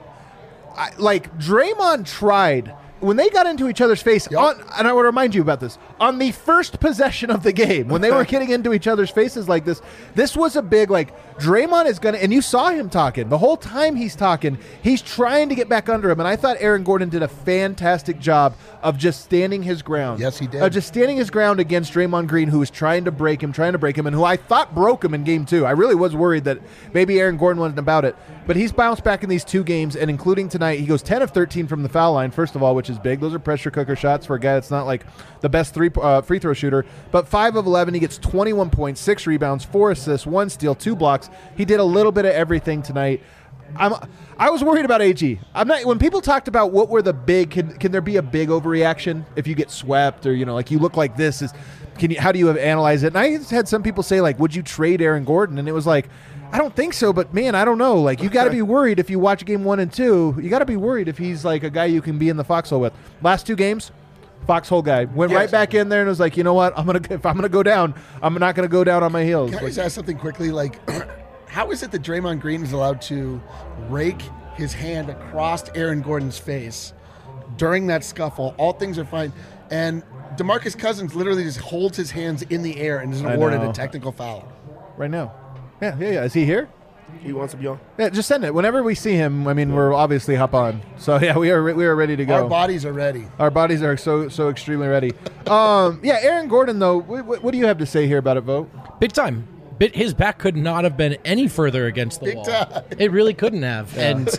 Draymond tried. When they got into each other's face, and I would remind you about this, on the first possession of the game, when they were getting into each other's faces like this was a big, Draymond is going to, and you saw him talking. The whole time he's talking, he's trying to get back under him, and I thought Aaron Gordon did a fantastic job of just standing his ground. Yes, he did. Just standing his ground against Draymond Green, who was trying to break him, and who I thought broke him in Game 2. I really was worried that maybe Aaron Gordon wasn't about it. But he's bounced back in these 2 games, and including tonight, he goes 10 of 13 from the foul line, first of all, which is big. Those are pressure cooker shots for a guy that's not the best free throw shooter. But 5 of 11, he gets 21 points, 6 rebounds, 4 assists, 1 steal, 2 blocks. He did a little bit of everything tonight. I was worried about AG. When people talked about what were the big, can there be a big overreaction if you get swept or you look like this? How do you analyze it? And I had some people say would you trade Aaron Gordon? And it was I don't think so, but man, I don't know. You got to be worried if you watch Game 1 and 2. You got to be worried if he's a guy you can be in the foxhole with. Last 2 games, foxhole guy went right back in there and was you know what? If I'm gonna go down, I'm not gonna go down on my heels. Can I just ask something quickly? How is it that Draymond Green is allowed to rake his hand across Aaron Gordon's face during that scuffle? All things are fine, and DeMarcus Cousins literally just holds his hands in the air and is awarded a technical foul right now. Yeah. Is he here? He wants to be on. Yeah, just send it. Whenever we see him, we're obviously hop on. So, yeah, we are ready to go. Our bodies are ready. Our bodies are so extremely ready. Aaron Gordon, though, what do you have to say here about it, Vogt? Big time. His back could not have been any further against the wall. Time. It really couldn't have. Yeah. And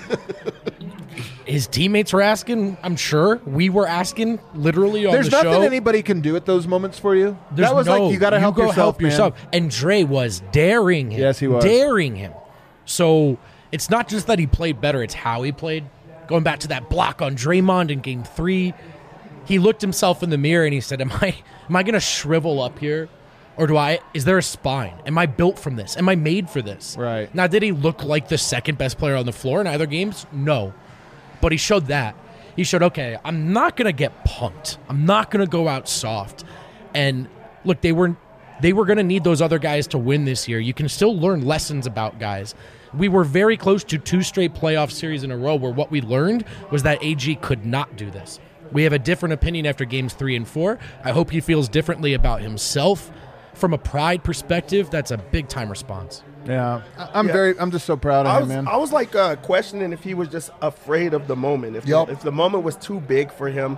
his teammates were asking, I'm sure. We were asking, literally on the show. There's nothing anybody can do at those moments for you. That was you got to help yourself. And Dre was daring him. Yes, he was. Daring him. So it's not just that he played better, it's how he played. Going back to that block on Draymond in Game 3, he looked himself in the mirror and he said, am I going to shrivel up here? Or is there a spine? Am I built from this? Am I made for this? Right. Now, did he look like the second best player on the floor in either games? No. But he showed that. He showed, okay, I'm not going to get punked. I'm not going to go out soft. And look, they were going to need those other guys to win this year. You can still learn lessons about guys. We were very close to 2 straight playoff series in a row where what we learned was that AG could not do this. We have a different opinion after games 3 and 4. I hope he feels differently about himself. From a pride perspective, that's a big time response. Yeah, I'm just so proud of him, man. I was questioning if he was just afraid of the moment. If the moment was too big for him,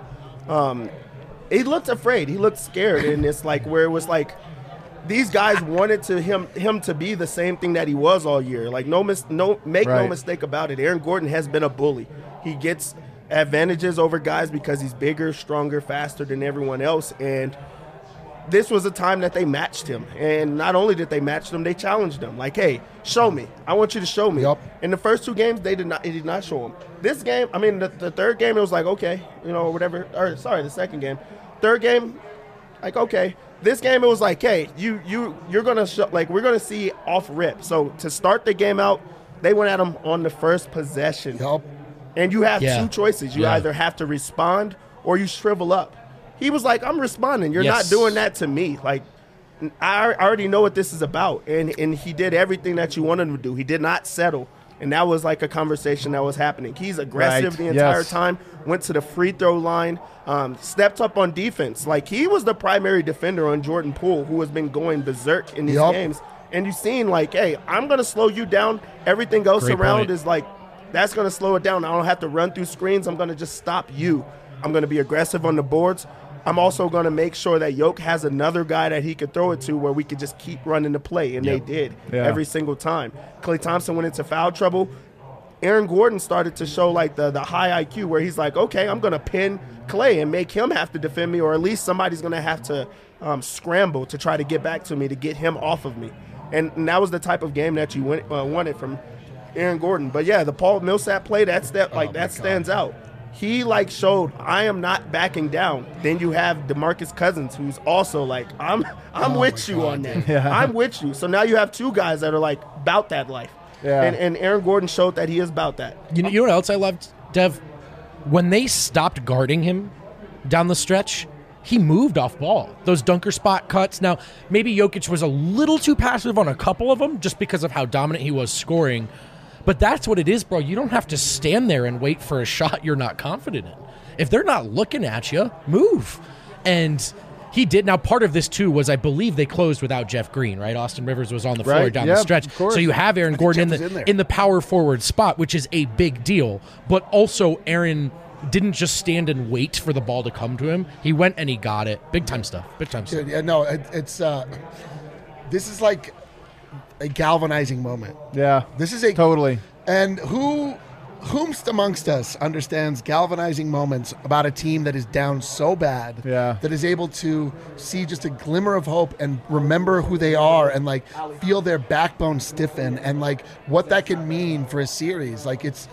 he looked afraid. He looked scared, and it's where it was these guys wanted him to be the same thing that he was all year. No mistake about it. Aaron Gordon has been a bully. He gets advantages over guys because he's bigger, stronger, faster than everyone else, and this was a time that they matched him. And not only did they match him, they challenged him. Hey, show me. I want you to show me. Yep. In the first 2 games, he did not show him. This game, the third game, it was okay, whatever. Or sorry, the second game. Third game, okay. This game, it was hey, you're gonna show, we're gonna see off rip. So to start the game out, they went at him on the first possession. Yep. And you have 2 choices. You either have to respond or you shrivel up. He was I'm responding. You're not doing that to me. I already know what this is about. And he did everything that you wanted him to do. He did not settle. And that was a conversation that was happening. He's aggressive the entire time, went to the free throw line, stepped up on defense. He was the primary defender on Jordan Poole, who has been going berserk in these games. And you've seen, hey, I'm going to slow you down. Everything else around is that's going to slow it down. I don't have to run through screens. I'm going to just stop you. I'm going to be aggressive on the boards. I'm also going to make sure that Yoke has another guy that he could throw it to where we could just keep running the play, and they did every single time. Klay Thompson went into foul trouble. Aaron Gordon started to show the high IQ where he's okay, I'm going to pin Klay and make him have to defend me, or at least somebody's going to have to scramble to try to get back to me to get him off of me. And that was the type of game that you wanted from Aaron Gordon. But, yeah, the Paul Millsap play, that stands out. He showed I am not backing down. Then you have DeMarcus Cousins, who's also I'm with you on that. Yeah. I'm with you. So now you have 2 guys that are about that life. Yeah. And Aaron Gordon showed that he is about that. You know what else I loved, Dev? when they stopped guarding him down the stretch, he moved off ball. Those dunker spot cuts. Now, maybe Jokic was a little too passive on a couple of them just because of how dominant he was scoring. But that's what it is, bro. You don't have to stand there and wait for a shot you're not confident in. If they're not looking at you, move. And he did. Now, part of this, too, was I believe they closed without Jeff Green, right? Austin Rivers was on the floor down the stretch. So you have Aaron Gordon in the power forward spot, which is a big deal. But also, Aaron didn't just stand and wait for the ball to come to him. He went and he got it. Big time stuff. Big time stuff. Yeah, no, it's this is like a galvanizing moment. Yeah. This is a totally. And whomst amongst us understands galvanizing moments about a team that is down so bad, that is able to see just a glimmer of hope and remember who they are and like feel their backbone stiffen and like what that can mean for a series. Like it's,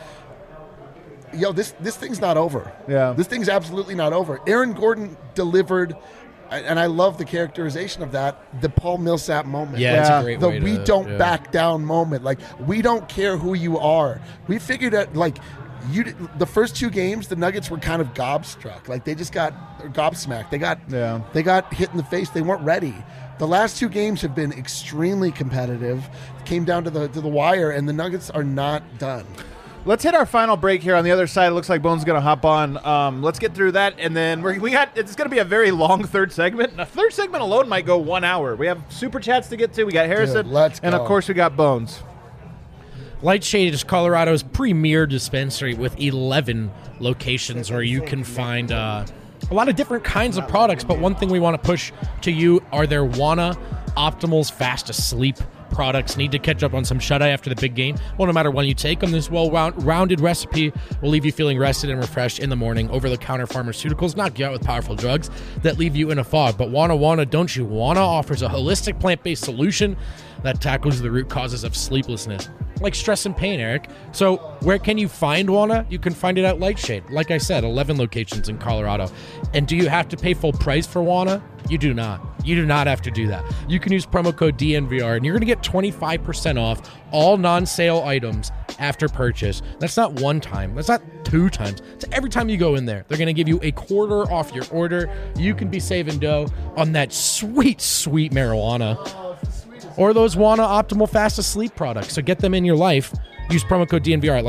this thing's not over. Yeah. This thing's absolutely not over. Aaron Gordon delivered, and I love the characterization of that, the Paul Millsap moment. Yeah, it's a great way we don't back down moment. Like, we don't care who you are. We figured out, like, the first 2 games, the Nuggets were kind of gobstruck. Like, they just got gobsmacked. They got hit in the face. They weren't ready. The last 2 games have been extremely competitive. Came down to the wire, and the Nuggets are not done. Let's hit our final break here. On the other side, it looks like Bones is going to hop on. Let's get through that, and then it's going to be a very long third segment. The third segment alone might go 1 hour. We have super chats to get to. We got Harrison, and of course we got Bones. Lightshade is Colorado's premier dispensary with 11 locations where you can find a lot of different kinds of products. But one thing we want to push to you are their Wana Optimals Fast Asleep products. Need to catch up on some shut-eye after the big game? Well, no matter when you take them, this well-rounded recipe will leave you feeling rested and refreshed in the morning. Over-the-counter pharmaceuticals knock you out with powerful drugs that leave you in a fog. But Wana Don't You Wanna offers a holistic plant-based solution that tackles the root causes of sleeplessness, like stress and pain, Eric. So where can you find Wana? You can find it at Lightshade. Like I said, 11 locations in Colorado. And do you have to pay full price for Wana? You do not. You do not have to do that. You can use promo code DNVR, and you're going to get 25% off all non-sale items after purchase. That's not one time. That's not 2 times. It's every time you go in there. They're going to give you a quarter off your order. You can be saving dough on that sweet, sweet marijuana. Or those Wana Optimal Fast Asleep products. So get them in your life. Use promo code DNVR at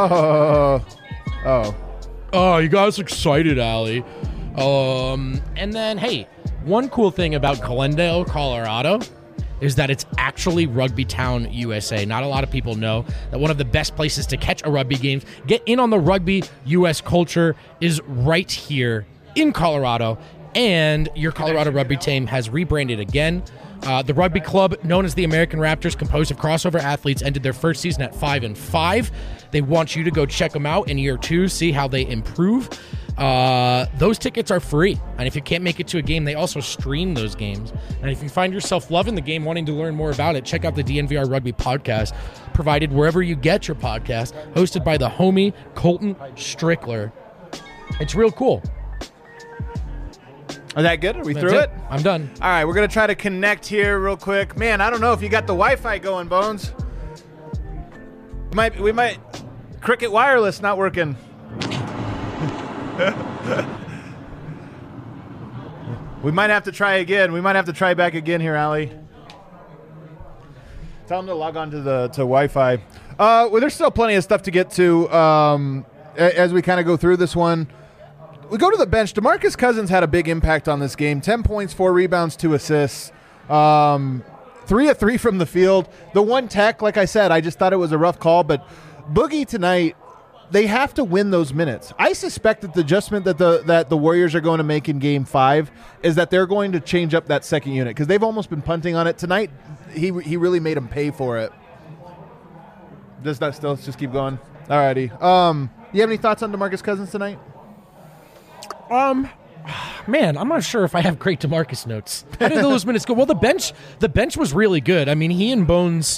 Lightshade. Oh, you got us excited, Allie. And then, hey, one cool thing about Glendale, Colorado is that it's actually Rugby Town, USA. Not a lot of people know that one of the best places to catch a rugby game, get in on the rugby US culture, is right here in Colorado. And your Colorado rugby team has rebranded again. The rugby club, known as the American Raptors, composed of crossover athletes, ended their first season at 5-5. They want you to go check them out in year 2, see how they improve. Those tickets are free, and if you can't make it to a game, they also stream those games. And if you find yourself loving the game, wanting to learn more about it, check out the DNVR Rugby podcast, provided wherever you get your podcast, hosted by the homie Colton Strickler. It's real cool. Is that good? Are we through it? I'm done. All right, we're going to try to connect here real quick. Man, I don't know if you got the Wi-Fi going, Bones. We might Cricket Wireless not working. We might have to try again. We might have to try back again here, Allie. Tell them to log on to Wi-Fi. Well, there's still plenty of stuff to get to as we kind of go through this one. We go to the bench. DeMarcus Cousins had a big impact on this game. 10 points, 4 rebounds, 2 assists. 3 of 3 from the field. The one tech, like I said, I just thought it was a rough call. But Boogie tonight, they have to win those minutes. I suspect that the adjustment that the Warriors are going to make in Game 5 is that they're going to change up that second unit because they've almost been punting on it. Tonight, he really made them pay for it. Does that still just keep going? All righty. You have any thoughts on DeMarcus Cousins tonight? Man, I'm not sure if I have great DeMarcus notes. How did those minutes go? Well, the bench was really good. I mean, he and Bones.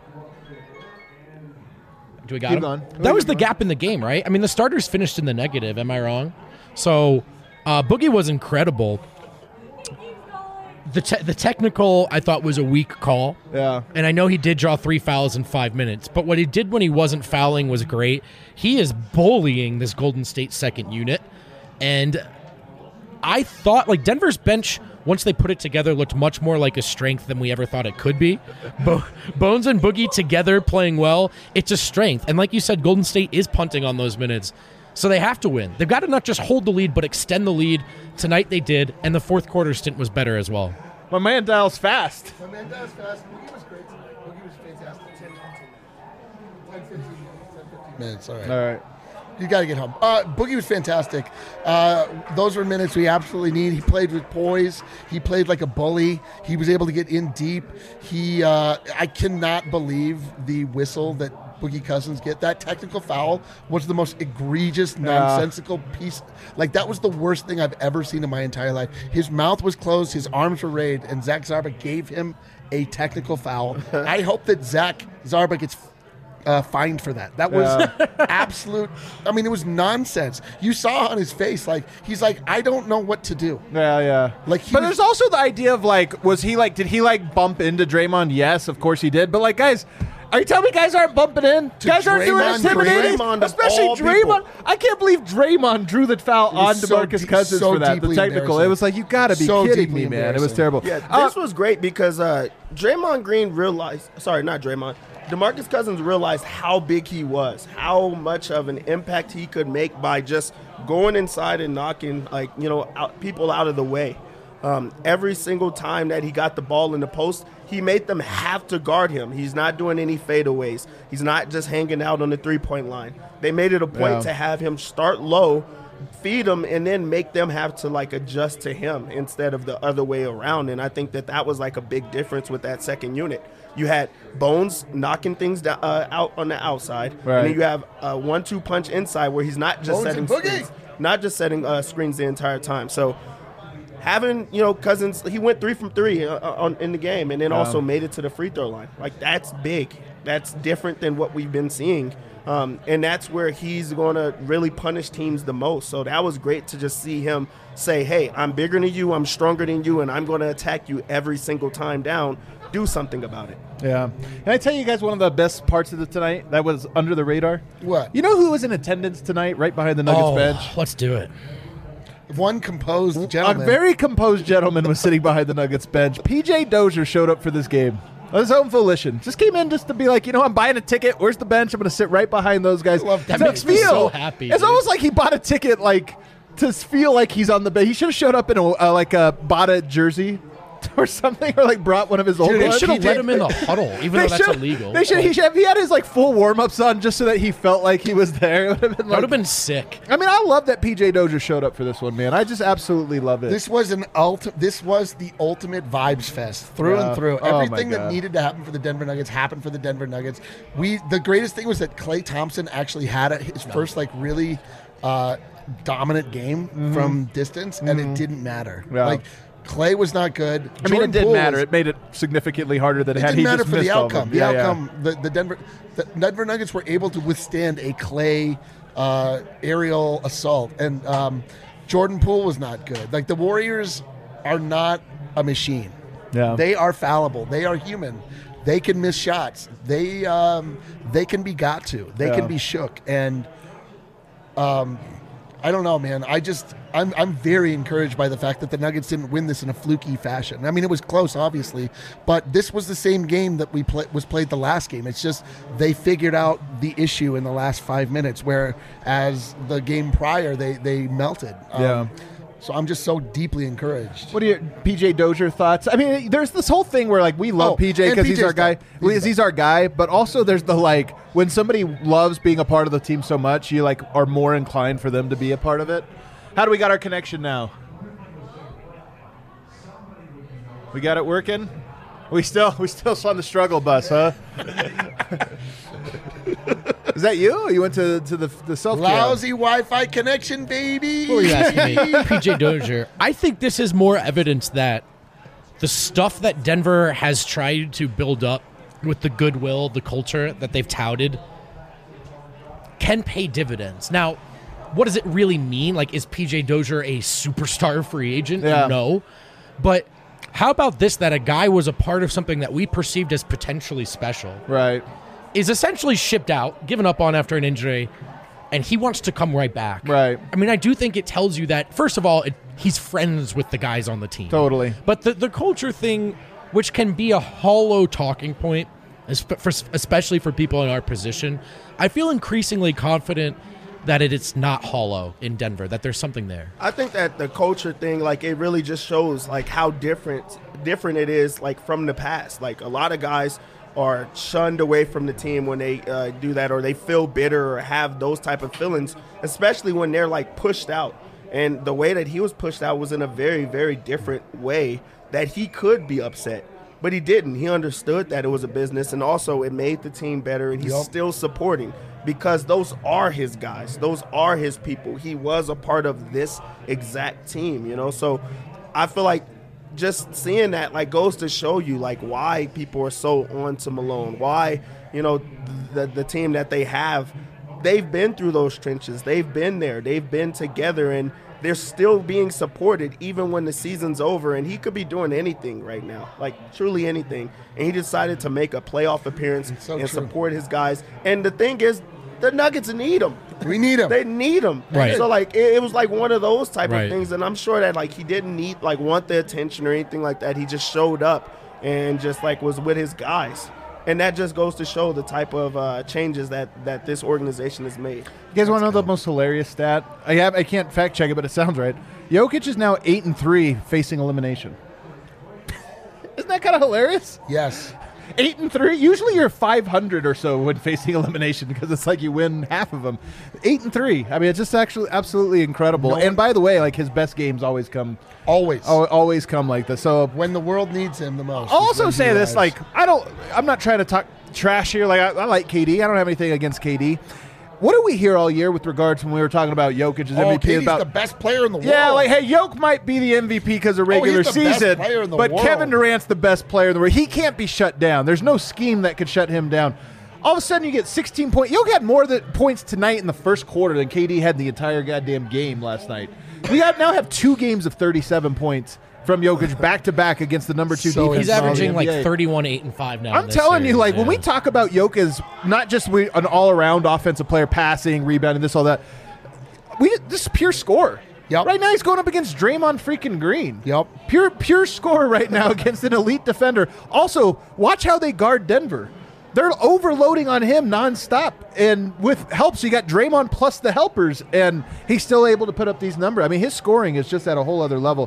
Do we got him? Going. That was the gap in the game, right? I mean, the starters finished in the negative. Am I wrong? So, Boogie was incredible. The technical, I thought, was a weak call. Yeah. And I know he did draw 3 fouls in 5 minutes, but what he did when he wasn't fouling was great. He is bullying this Golden State second unit. And I thought, like, Denver's bench, once they put it together, looked much more like a strength than we ever thought it could be. Bones and Boogie together playing well, it's a strength. And like you said, Golden State is punting on those minutes. So they have to win. They've got to not just hold the lead, but extend the lead. Tonight they did, and the fourth quarter stint was better as well. My man dials fast. My man dials fast. Boogie was great tonight. Boogie was fantastic. 10-15 minutes. All right. All right. You got to get home. Boogie was fantastic. Those were minutes we absolutely need. He played with poise. He played like a bully. He was able to get in deep. I cannot believe the whistle that Boogie Cousins get. That technical foul was the most egregious, nonsensical piece. Like, that was the worst thing I've ever seen in my entire life. His mouth was closed, his arms were raised, and Zach Zarba gave him a technical foul. I hope that Zach Zarba gets fined for that. That was absolute. I mean, it was nonsense. You saw on his face, like, he's like, I don't know what to do. Yeah. Like, but there's also the idea of, like, did he bump into Draymond? Yes, of course he did. But, like, guys, are you telling me guys aren't bumping in? Guys aren't doing Draymond intimidating? Green? Especially Of all Draymond. people. I can't believe Draymond drew the foul on DeMarcus Cousins so for that. The deeply technical. It was like, you got to be So kidding deeply me, man. It was embarrassing. terrible. Yeah, this was great because Draymond Green realized. Sorry, not Draymond. DeMarcus Cousins realized how big he was, how much of an impact he could make by just going inside and knocking, people out of the way. Every single time that he got the ball in the post, he made them have to guard him. He's not doing any fadeaways. He's not just hanging out on the three-point line. They made it a point to have him start low, feed them, and then make them have to, like, adjust to him instead of the other way around. And I think that was, like, a big difference with that second unit. You had Bones knocking things down, out on the outside, right. And then you have a 1-2 punch inside where he's not just Bones setting screens the entire time. So having, Cousins, he went 3 from 3 in the game, and then also made it to the free throw line. Like, that's big. That's different than what we've been seeing. And that's where he's going to really punish teams the most. So that was great to just see him say, hey, I'm bigger than you, I'm stronger than you, and I'm going to attack you every single time down. Do something about it. Yeah. Can I tell you guys one of the best parts of tonight that was under the radar? What? You know who was in attendance tonight right behind the Nuggets bench? Let's do it. One composed gentleman. A very composed gentleman was sitting behind the Nuggets bench. PJ Dozier showed up for this game. On his own volition. Just came in just to be like, I'm buying a ticket. Where's the bench? I'm going to sit right behind those guys. That makes me so happy. It's dude. almost like he bought a ticket, like, to feel like he's on the bench. He should have showed up in a Bada jersey or something, or like brought one of his old Dude, they ones. should have let him in the huddle, even though that's illegal. He had his like full warm-ups on just so that he felt like he was there. It would have been sick. I mean, I love that PJ Dozier showed up for this one, man. I just absolutely love it. This was the ultimate vibes fest through and through. Everything that needed to happen for the Denver Nuggets happened for the Denver Nuggets. The greatest thing was that Klay Thompson actually had his first like really dominant game from distance, and it didn't matter. Yeah. Like, Klay was not good. I mean, it didn't matter. It made it significantly harder than it had. It didn't matter for the all of outcome. them. The outcome, the Denver Nuggets were able to withstand a Klay aerial assault, and Jordan Poole was not good. Like, the Warriors are not a machine. Yeah. They are fallible. They are human. They can miss shots. They can be got to. They can be shook. And I don't know, man. I'm very encouraged by the fact that the Nuggets didn't win this in a fluky fashion. I mean, it was close, obviously, but this was the same game that was played the last game. It's just they figured out the issue in the last 5 minutes, whereas the game prior they melted. So I'm just so deeply encouraged. What are your PJ Dozier thoughts? I mean, there's this whole thing where like we love PJ because he's our guy. He's our guy, but also there's the like when somebody loves being a part of the team so much, you like are more inclined for them to be a part of it. How do we got our connection now? We got it working? We still on the struggle bus, huh? Is that you? Or you went to the self Lousy Wi-Fi connection, baby. What were you asking me? PJ Dozier. I think this is more evidence that the stuff that Denver has tried to build up with the goodwill, the culture that they've touted can pay dividends. Now, what does it really mean? Like, is PJ Dozier a superstar free agent? Yeah. No. But How about this, that a guy was a part of something that we perceived as potentially special, Right. is essentially shipped out, given up on after an injury, and he wants to come right back. Right. I mean, I do think it tells you that, first of all, he's friends with the guys on the team. Totally. But the culture thing, which can be a hollow talking point, especially for people in our position, I feel increasingly confident that it's not hollow in Denver, that there's something there. I think that the culture thing, like, it really just shows like how different it is, like, from the past. Like, a lot of guys are shunned away from the team when they do that, or they feel bitter or have those type of feelings, especially when they're like pushed out. And the way that he was pushed out was in a very, very different way that he could be upset. But he didn't. He understood that it was a business, and also it made the team better, and he's still supporting because those are his guys. Those are his people. He was a part of this exact team, you know? So I feel like just seeing that, like, goes to show you, like, why people are so on to Malone, why, you know, the team that they have, they've been through those trenches. They've been there. They've been together, and they're still being supported even when the season's over, and he could be doing anything right now, like truly anything. And he decided to make a playoff appearance and support his guys. And the thing is, the Nuggets need him. We need him. They need him. Right. So, like, it was like one of those type Right. of things, and I'm sure that, like, he didn't want the attention or anything like that. He just showed up and just, like, was with his guys. And that just goes to show the type of changes that this organization has made. You guys want to know the most hilarious stat? I can't fact check it, but it sounds right. Jokic is now 8-3 facing elimination. Isn't that kind of hilarious? Yes. 8-3. Usually you're 500 or so when facing elimination because it's like you win half of them. 8-3. I mean, it's just actually absolutely incredible. And by the way, like, his best games always come like this. So When the world needs him the most. I'll is also when he say this, arrives. like, I'm not trying to talk trash here. Like, I like KD. I don't have anything against KD. What did we hear all year with regards when we were talking about Jokic as MVP? KD's about the best player in the world. Yeah, like, hey, Jokic might be the MVP because of regular he's the best season, player in the but world. Kevin Durant's the best player in the world. He can't be shut down. There's no scheme that could shut him down. All of a sudden, you get 16 points. Jokic had more points tonight in the first quarter than KD had in the entire goddamn game last night. We now have 2 games of 37 points from Jokic back-to-back against the number 2 So defense. He's in all the averaging like NBA. 31, 8, and 5 now. I'm telling you, like, when we talk about Jokic as not just an all-around offensive player, passing, rebounding, this, all that, this is pure score. Yep. Right now, he's going up against Draymond freaking Green. Yep. Pure score right now against an elite defender. Also, watch how they guard Denver. They're overloading on him nonstop, and with help, so you got Draymond plus the helpers, and he's still able to put up these numbers. I mean, his scoring is just at a whole other level.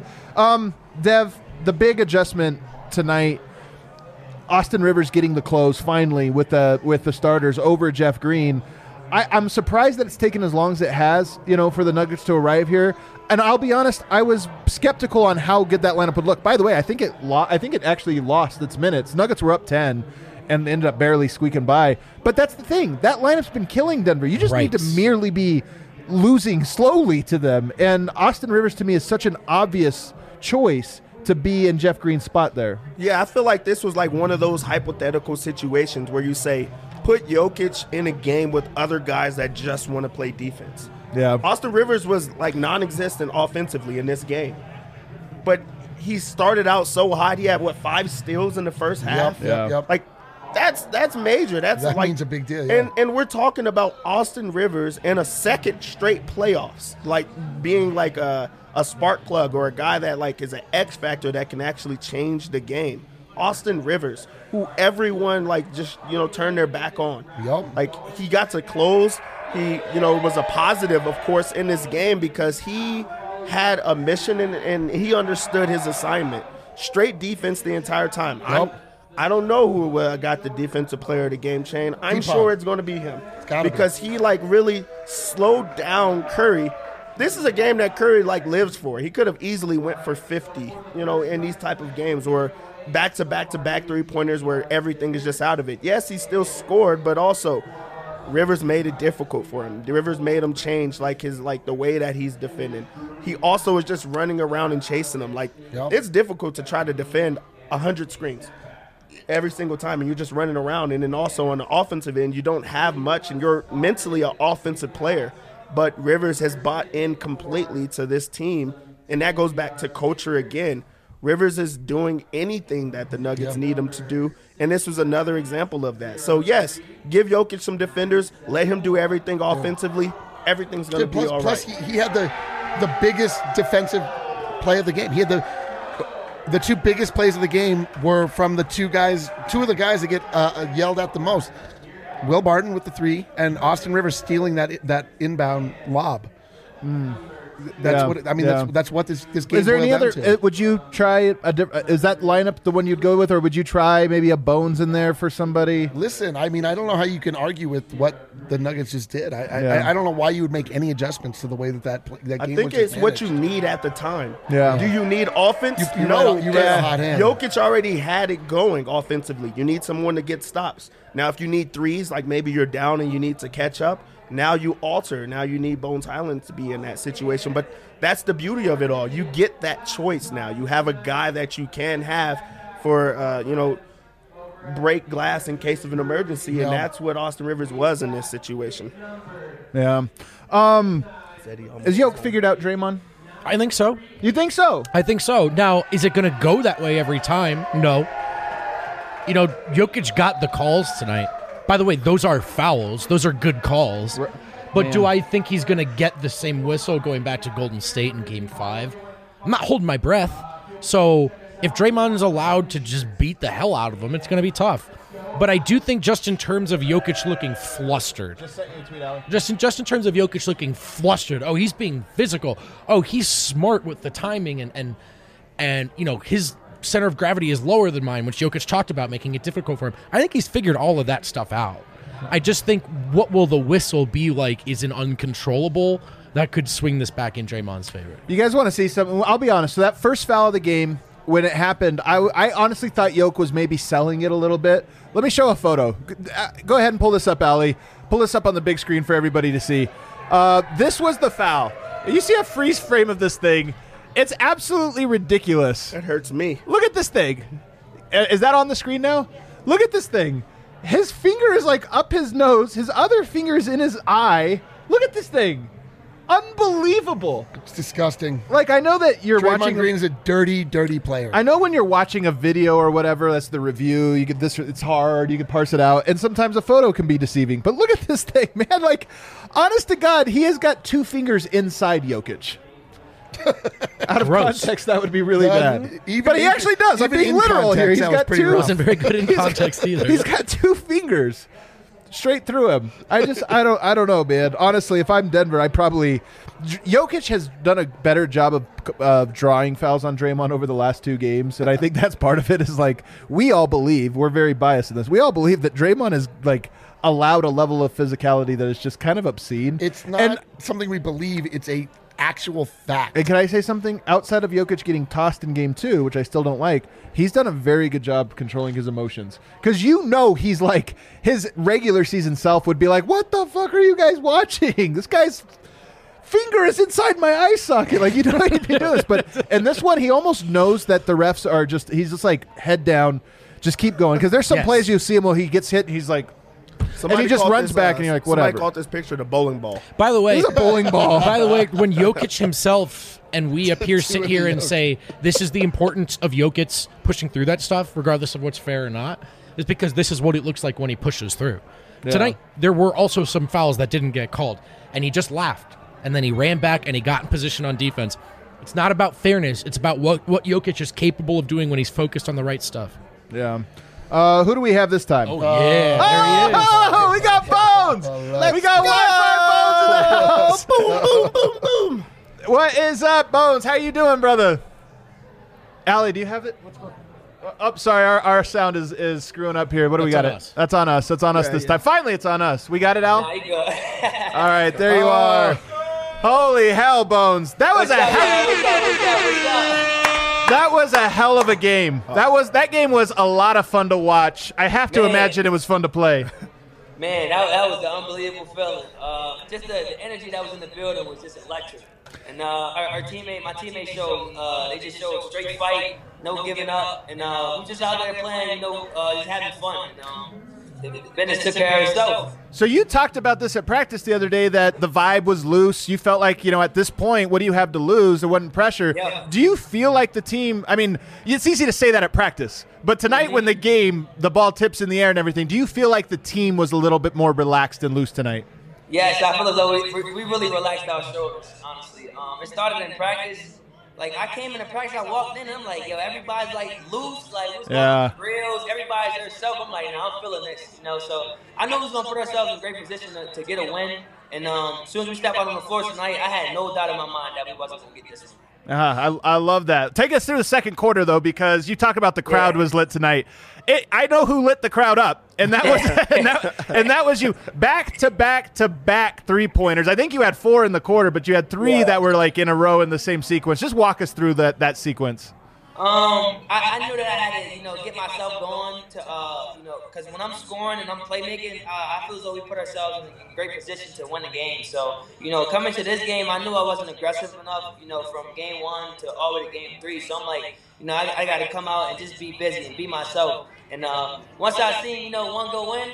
Dev, the big adjustment tonight, Austin Rivers getting the close finally with the starters over Jeff Green. I'm surprised that it's taken as long as it has, for the Nuggets to arrive here. And I'll be honest, I was skeptical on how good that lineup would look. By the way, I think it actually lost its minutes. Nuggets were up 10 and ended up barely squeaking by. But that's the thing. That lineup's been killing Denver. You just need to merely be losing slowly to them. And Austin Rivers, to me, is such an obvious choice to be in Jeff Green's spot there. Yeah, I feel like this was like one of those hypothetical situations where you say, put Jokic in a game with other guys that just want to play defense. Yeah. Austin Rivers was like non-existent offensively in this game. But he started out so hot. He had, 5 steals in the first half? Yep. Like, that's major. That means a big deal, yeah. And we're talking about Austin Rivers in a second straight playoffs, like being like a spark plug or a guy that like is an X factor that can actually change the game. Austin Rivers, who everyone like just turned their back on. Yep. Like he got to close. He was a positive, of course, in this game because he had a mission and he understood his assignment. Straight defense the entire time. Yep. I don't know who got the defensive player of the game chain. I'm sure it's going to be him because he like really slowed down Curry. This is a game that Curry like lives for. He could have easily went for 50, in these type of games or back-to-back-to-back three-pointers where everything is just out of it. Yes, he still scored, but also Rivers made it difficult for him. Rivers made him change the way that he's defending. He also is just running around and chasing them. It's difficult to try to defend 100 screens every single time, and you're just running around. And then also on the offensive end, you don't have much, and you're mentally an offensive player. But Rivers has bought in completely to this team, and that goes back to culture again. Rivers is doing anything that the Nuggets need him to do, and this was another example of that. So, yes, give Jokic some defenders, let him do everything offensively. Everything's going to be all right. Plus, he had the biggest defensive play of the game. He had the two biggest plays of the game were from the two of the guys that get yelled at the most. Will Barton with the 3, and Austin Rivers stealing that inbound lob. That's what I mean. That's what this game. Is there any other? To. Would you try is that lineup the one you'd go with, or would you try maybe a Bones in there for somebody? Listen, I mean, I don't know how you can argue with what the Nuggets just did. I don't know why you would make any adjustments to the way that game. I think it's what you need at the time. Yeah. Do you need offense? No. You ran a hot hand. Jokic already had it going offensively. You need someone to get stops. Now, if you need threes, like maybe you're down and you need to catch up. Now you alter. Now you need Bones Highland to be in that situation. But that's the beauty of it all. You get that choice now. You have a guy that you can have for, break glass in case of an emergency, and that's what Austin Rivers was in this situation. Yeah. Is Yoke figured out Draymond? I think so. You think so? I think so. Now, is it going to go that way every time? No. Jokic got the calls tonight. By the way, those are fouls. Those are good calls. But do I think he's going to get the same whistle going back to Golden State in Game 5? I'm not holding my breath. So if Draymond's allowed to just beat the hell out of him, it's going to be tough. But I do think just in terms of Jokic looking flustered. Just sent you a tweet, Allie. Just in terms of Jokic looking flustered. Oh, he's being physical. Oh, he's smart with the timing and his center of gravity is lower than mine, which Jokic talked about, making it difficult for him. I think he's figured all of that stuff out. I just think what will the whistle be like is an uncontrollable that could swing this back in Draymond's favor. You guys want to see something? I'll be honest. So that first foul of the game, when it happened, I honestly thought Jokic was maybe selling it a little bit. Let me show a photo. Go ahead and pull this up, Allie. Pull this up on the big screen for everybody to see. This was the foul. You see a freeze frame of this thing. It's absolutely ridiculous. That hurts me. Look at this thing. Is that on the screen now? Look at this thing. His finger is like up his nose. His other finger is in his eye. Look at this thing. Unbelievable. It's disgusting. Like, I know that you're Draymond watching. Green is a dirty, dirty player. I know when you're watching a video or whatever, that's the review. You get this. It's hard. You can parse it out, and sometimes a photo can be deceiving. But look at this thing, man. Like, honest to God, he has got 2 fingers inside Jokic. Out of context, that would be really bad. But he actually does. I'm being literal here. He's got 2. Wasn't very good in context either. He's got 2 fingers straight through him. I don't know, man. Honestly, if I'm Denver, Jokic has done a better job of drawing fouls on Draymond over the last 2 games, and I think that's part of it. Is like, we all believe, we're very biased in this, we all believe that Draymond is like allowed a level of physicality that is just kind of obscene. It's not something we believe. It's a actual fact. And can I say something? Outside of Jokic getting tossed in Game 2, which I still don't like, he's done a very good job controlling his emotions. Because he's like, his regular season self would be like, what the fuck are you guys watching? This guy's finger is inside my eye socket. Like, you don't need to do this. But in this one, he almost knows that the refs are he's just like, head down, just keep going. Because there's some plays you see him where he gets hit and he's like, and he just runs back, and you're like, whatever. Somebody called this picture the bowling ball. By the way, it's a bowling ball. By the way, when Jokic himself and we up here sit here and say this is the importance of Jokic pushing through that stuff, regardless of what's fair or not, is because this is what it looks like when he pushes through. Yeah. Tonight, there were also some fouls that didn't get called, and he just laughed, and then he ran back and he got in position on defense. It's not about fairness. It's about what Jokic is capable of doing when he's focused on the right stuff. Yeah. Who do we have this time? Oh, yeah. There he is. Oh, we got Bones. We got Wi-Fi Bones in the house. Boom, boom, boom, boom. What is up, Bones? How you doing, brother? Allie, do you have it? What's going on? Oh, sorry, our sound is screwing up here. What do we got? That's on us. That's on us this time. Finally, it's on us. We got it, Al? All right, there you are. Holy hell, Bones. That was That was a hell of a game. That game was a lot of fun to watch. I have to imagine it was fun to play. Man, that was an unbelievable feeling. Just the energy that was in the building was just electric. And my teammate showed, they just showed straight fight, no giving up, and we just out there playing, just having fun. business took care of itself. So you talked about this at practice the other day, that the vibe was loose. You felt like, at this point, what do you have to lose? There wasn't pressure. Yeah. Do you feel like the team, it's easy to say that at practice, but tonight when the ball tips in the air and everything, do you feel like the team was a little bit more relaxed and loose tonight? Yes, I feel as though we really relaxed our shoulders, honestly. It started in practice. Like, I came into practice, I walked in, and I'm like, yo, everybody's, like, loose. Like, what's going on with drills? Everybody's their self. I'm like, I'm feeling this, So I know we was going to put ourselves in a great position to get a win. And as soon as we step out on the floor tonight, I had no doubt in my mind that we wasn't going to get this one. I love that. Take us through the second quarter, though, because you talk about the crowd was lit tonight. I know who lit the crowd up, and that was and that was you. Back to back 3-pointers. I think you had 4 in the quarter, but you had 3 that were like in a row in the same sequence. Just walk us through that sequence. I knew that I had to, get myself going to, because when I'm scoring and I'm playmaking, I feel as though we put ourselves in a great position to win the game. So, coming to this game, I knew I wasn't aggressive enough, from game 1 to all the way to game 3. So I'm like, I got to come out and just be busy and be myself. And once I seen, one go in,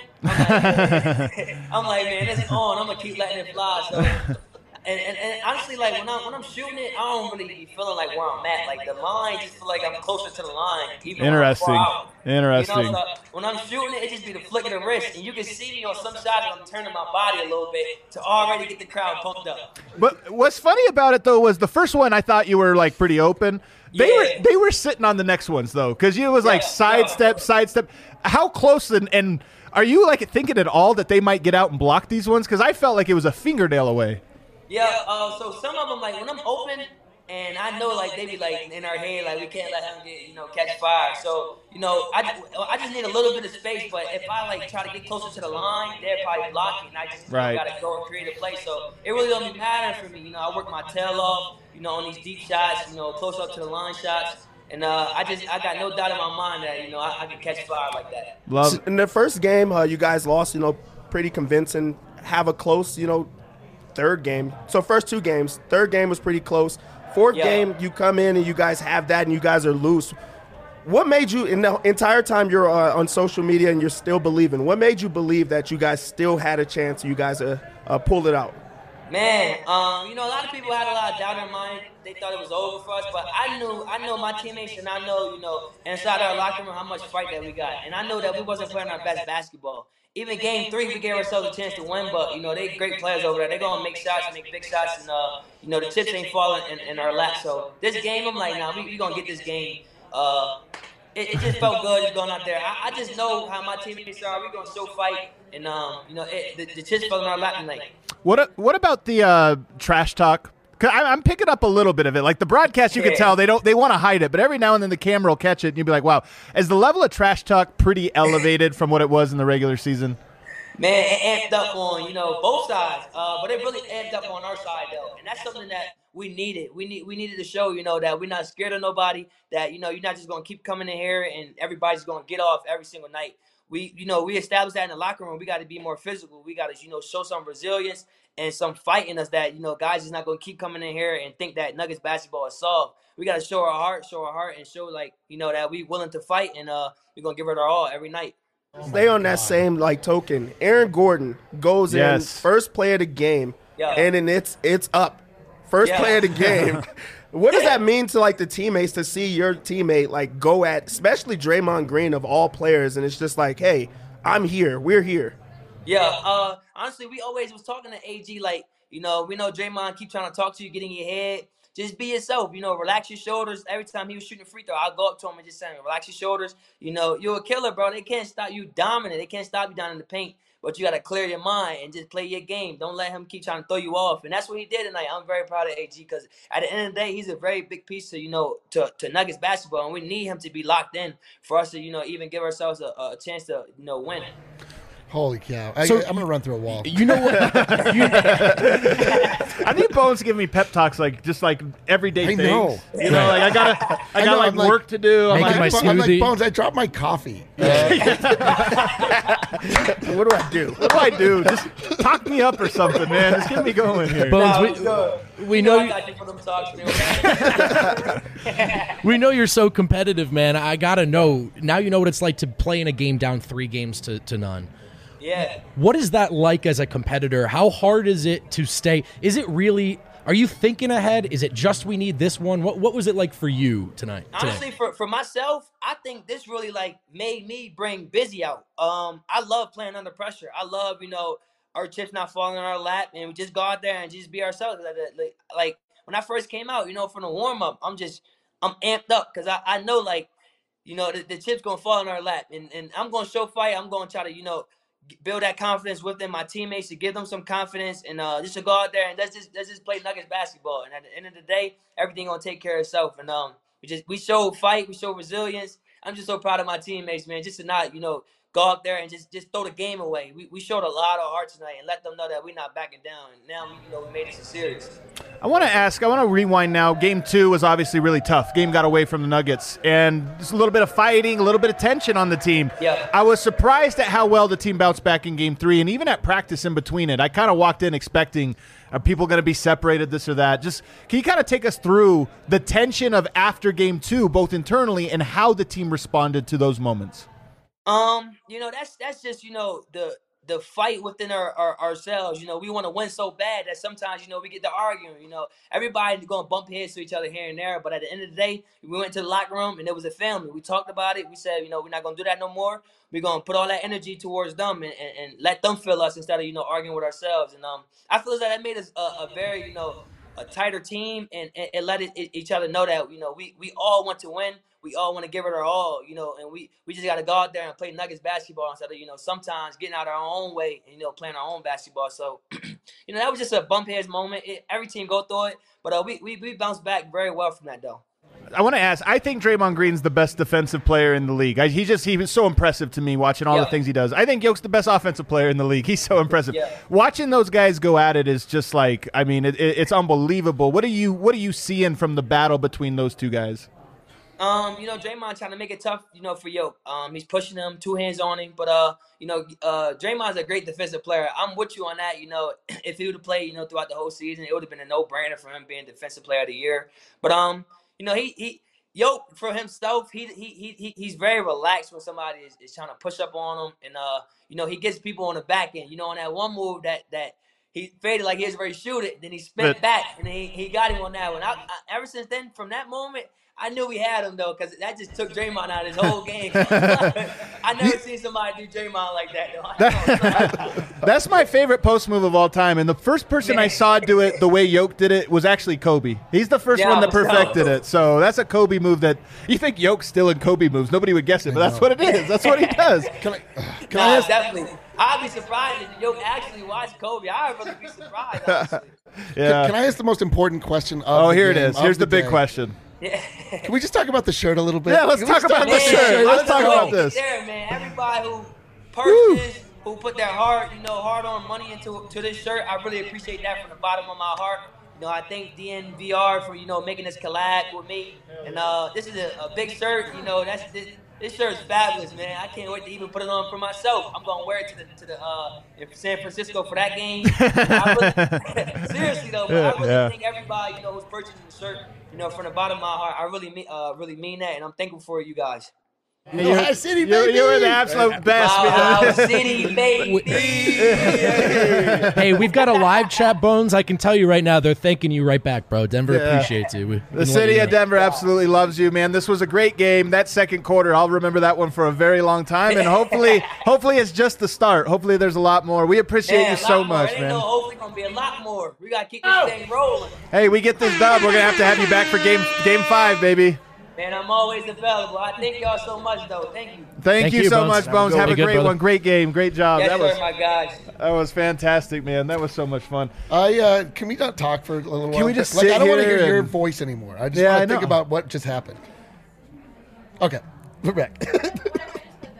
I'm like, man, it's on. I'm gonna keep letting it fly. So. And honestly, like when I'm shooting it, I don't really be feeling like where I'm at. Like the line, just feel like I'm closer to the line. Even Interesting. When I'm far out. Interesting. So when I'm shooting it, it just be the flick of the wrist, and you can see me on some shots. I'm turning my body a little bit to already get the crowd pumped up. But what's funny about it though was the first one I thought you were like pretty open. They were sitting on the next ones though, because it was like sidestep. How close and are you like thinking at all that they might get out and block these ones? Because I felt like it was a fingernail away. Yeah, so some of them, like, when I'm open, and I know, like, they be, like, in our head, like, we can't let him get, catch fire. So, I just need a little bit of space, but if I, like, try to get closer to the line, they're probably blocking, and I just got to go and create a play. So, it really don't matter for me. I work my tail off, on these deep shots, close up to the line shots. And I got no doubt in my mind that, I can catch fire like that. Love. In the first game, you guys lost, pretty convincing. Have a close, third game. So first 2 games. Third game was pretty close. Fourth game, you come in and you guys have that and you guys are loose. What made you, in the entire time you're on social media and you're still believing, what made you believe that you guys still had a chance, you guys pulled it out? Man, a lot of people had a lot of doubt in their mind. They thought it was over for us, but I know my teammates, and I know, inside our locker room how much fight that we got. And I know that we wasn't playing our best basketball. Even game 3, we gave ourselves a chance to win, but, they great players over there. They're going to make shots, make big shots, and, the chips ain't falling in our lap. So this game, I'm like, we going to get this game. It just felt good just going out there. I just know how my teammates are. We're going to show fight, and, the chips fell in our lap tonight. What about the trash talk? Cause I'm picking up a little bit of it. Like the broadcast, you can tell they want to hide it, but every now and then the camera will catch it, and you'll be like, "Wow, is the level of trash talk pretty elevated from what it was in the regular season?" Man, it amped up on both sides, but it really amped up on our side though, and that's something that we needed. We needed to show that we're not scared of nobody. That you're not just gonna keep coming in here and everybody's gonna get off every single night. We established that in the locker room. We got to be more physical. We got to show some resilience and some fight in us that guys is not going to keep coming in here and think that Nuggets basketball is soft. We got to show our heart, and show that we willing to fight, and we're going to give it our all every night. Stay on that same token. Aaron Gordon goes in first play of the game, and then it's up. First play of the game. What does that mean to the teammates to see your teammate go at, especially Draymond Green of all players, and it's just like, hey, I'm here, we're here. Yeah, honestly, we always was talking to AG we know Draymond keep trying to talk to you, get in your head. Just be yourself, relax your shoulders. Every time he was shooting a free throw, I'll go up to him and just say, relax your shoulders. You're a killer, bro. They can't stop you dominant. They can't stop you down in the paint. But you got to clear your mind and just play your game. Don't let him keep trying to throw you off. And that's what he did tonight. I'm very proud of AG because at the end of the day, he's a very big piece to, to Nuggets basketball. And we need him to be locked in for us to, even give ourselves a chance to, win. Holy cow! So- I'm gonna run through a wall. You know what? I need Bones to give me pep talks, just like everyday I things. know. You know, like I got know, like I'm like- work to do. I'm Making like, my I'm like, smoothie. Bones, I dropped my coffee. What do I do? what do I do? Just talk me up or something, man. Just get me going here. Bones, we know I got you for them talks, man. we know you're so competitive, man. I gotta know now. You know what it's like to play in a game down 3 games to none. Yeah. What is that like as a competitor? How hard is it to stay? Is it really? Are you thinking ahead? Is it just we need this one? What was it like for you tonight? Honestly, for myself, I think this really like made me bring Busy out. I love playing under pressure. I love, our chips not falling in our lap, and we just go out there and just be ourselves. Like when I first came out, from the warm up, I'm amped up because I know the chips gonna fall in our lap, and I'm gonna show fight. I'm gonna try to build that confidence within my teammates to give them some confidence, and just to go out there and let's just play Nuggets basketball. And at the end of the day, everything gonna take care of itself. And we show fight, we show resilience. I'm just so proud of my teammates, man. Just to not go out there and just throw the game away. We showed a lot of heart tonight and let them know that we're not backing down. And now we made this a series. I want to rewind now. Game 2 was obviously really tough. Game got away from the Nuggets, and just a little bit of fighting, a little bit of tension on the team. Yeah. I was surprised at how well the team bounced back in Game 3, and even at practice in between it. I kind of walked in expecting, are people going to be separated, this or that? Just can you kind of take us through the tension of after Game 2, both internally and how the team responded to those moments? That's just the fight within ourselves. We want to win so bad that sometimes we get to arguing. Everybody going to bump heads to each other here and there, but at the end of the day, we went to the locker room and it was a family. We talked about it. We said we're not going to do that no more. We're going to put all that energy towards them and let them feel us instead of arguing with ourselves. And I feel as that made us a very a tighter team, and it let each other know that we all want to win. We all want to give it our all, and we just got to go out there and play Nuggets basketball instead of sometimes getting out our own way and playing our own basketball. So that was just a bump heads moment. Every team go through it, but we bounced back very well from that though. I want to ask, I think Draymond Green's the best defensive player in the league. He was so impressive to me watching all the things he does. I think Yoke's the best offensive player in the league. He's so impressive. Yeah. Watching those guys go at it is just like, it's unbelievable. What are you seeing from the battle between those two guys? Draymond trying to make it tough, for Yoke. He's pushing him, 2 hands on him. But, Draymond's a great defensive player. I'm with you on that. If he would have played, throughout the whole season, it would have been a no-brainer for him being defensive player of the year. But, he Yoke for himself, he's very relaxed when somebody is trying to push up on him. And, he gets people on the back end. On that one move that he faded like he was ready to shoot it. Then he spent back, and he got him on that one. Ever since then, from that moment, I knew we had him, though, because that just took Draymond out of his whole game. I never seen somebody do Draymond like that, though. That's my favorite post move of all time. And the first person I saw do it the way Yoke did it was actually Kobe. He's the first one that perfected it. So that's a Kobe move that you think Yoke's still in Kobe moves. Nobody would guess it, but that's what it is. That's what he does. Can I ask? Definitely. I'd be surprised if Yoke actually watched Kobe. I'd really be surprised, honestly. Yeah. Can I ask the most important question of the here it game, is. Here's of the big day? question. Can we just talk about the shirt a little bit? Yeah, let's Can we talk about start the shirt. Let's talk about this. There, man. Everybody who purchased, who put their hard-earned money into this shirt, I really appreciate that from the bottom of my heart. I thank DNVR for making this collab with me, and this is a big shirt. This shirt is fabulous, man. I can't wait to even put it on for myself. I'm gonna wear it to the San Francisco for that game. Seriously though, but I really thank everybody who's purchasing the shirt. From the bottom of my heart, I really mean that, and I'm thankful for you guys. Ohio City, baby. You were the absolute best. Ohio City, baby. Hey, we've got a live chat, Bones. I can tell you right now, they're thanking you right back, bro. Denver appreciates you. The city of Denver absolutely loves you, man. This was a great game. That second quarter, I'll remember that one for a very long time, and hopefully it's just the start. Hopefully there's a lot more. We appreciate you so much, man. Hopefully going to be a lot more. We got to keep this thing rolling. Hey, we get this dub. We're going to have you back for game 5, baby. Man, I'm always available. I thank y'all so much, though. Thank you. Thank you so much, Bones. Have a great one. Great game. Great job. Yes, sir, my guys. That was fantastic, man. That was so much fun. Can we not talk for a little while? Can we just sit I don't want to here hear your and- voice anymore. I just want to think about what just happened. Okay, we're back.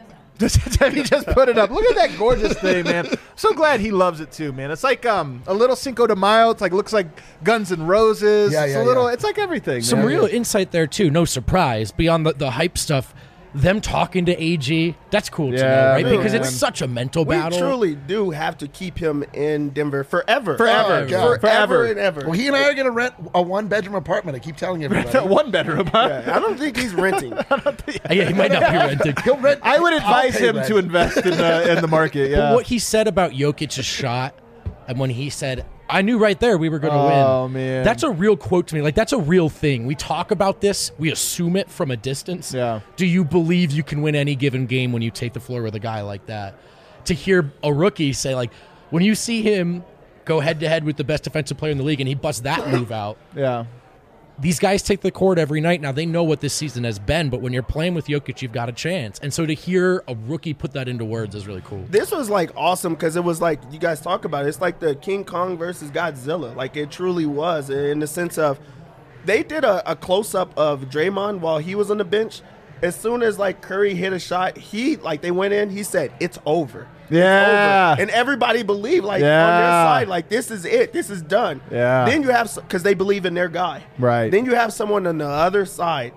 He just put it up. Look at that gorgeous thing, man. So glad he loves it too, man. It's like a little Cinco de Mayo. It's like looks like Guns N' Roses. It's like everything. Some man. real insight there too. No surprise. Beyond the hype stuff, them talking to AG, that's cool to know, right? man. Because it's such a mental We battle. truly do have to keep him in Denver forever. Forever. Forever and ever. Well, he and I are going to rent a 1-bedroom apartment. I keep telling everybody. One bedroom. Huh? Yeah, I don't think he's renting. Yeah, he might not be renting. He'll rent. I would I'll advise pay him rent. to invest in the market. Yeah. But what he said about Jokic's shot, and when he said, I knew right there we were going to win. Oh, man. That's a real quote to me. Like, that's a real thing. We talk about this. We assume it from a distance. Yeah. Do you believe you can win any given game when you take the floor with a guy like that? To hear a rookie say, like, when you see him go head-to-head with the best defensive player in the league and he busts that move out, Yeah. these guys take the court every night. Now, they know what this season has been, but when you're playing with Jokic, you've got a chance. And so to hear a rookie put that into words is really cool. This was like awesome because it was like you guys talk about it. It's like the King Kong versus Godzilla. Like it truly was in the sense of they did a close up of Draymond while he was on the bench. As soon as like Curry hit a shot, they went in. He said, "It's over." Yeah. Over. And everybody believed on their Yeah. side, like this is it. This is done. Yeah. Then you have because they believe in their guy. Right. Then you have someone on the other side,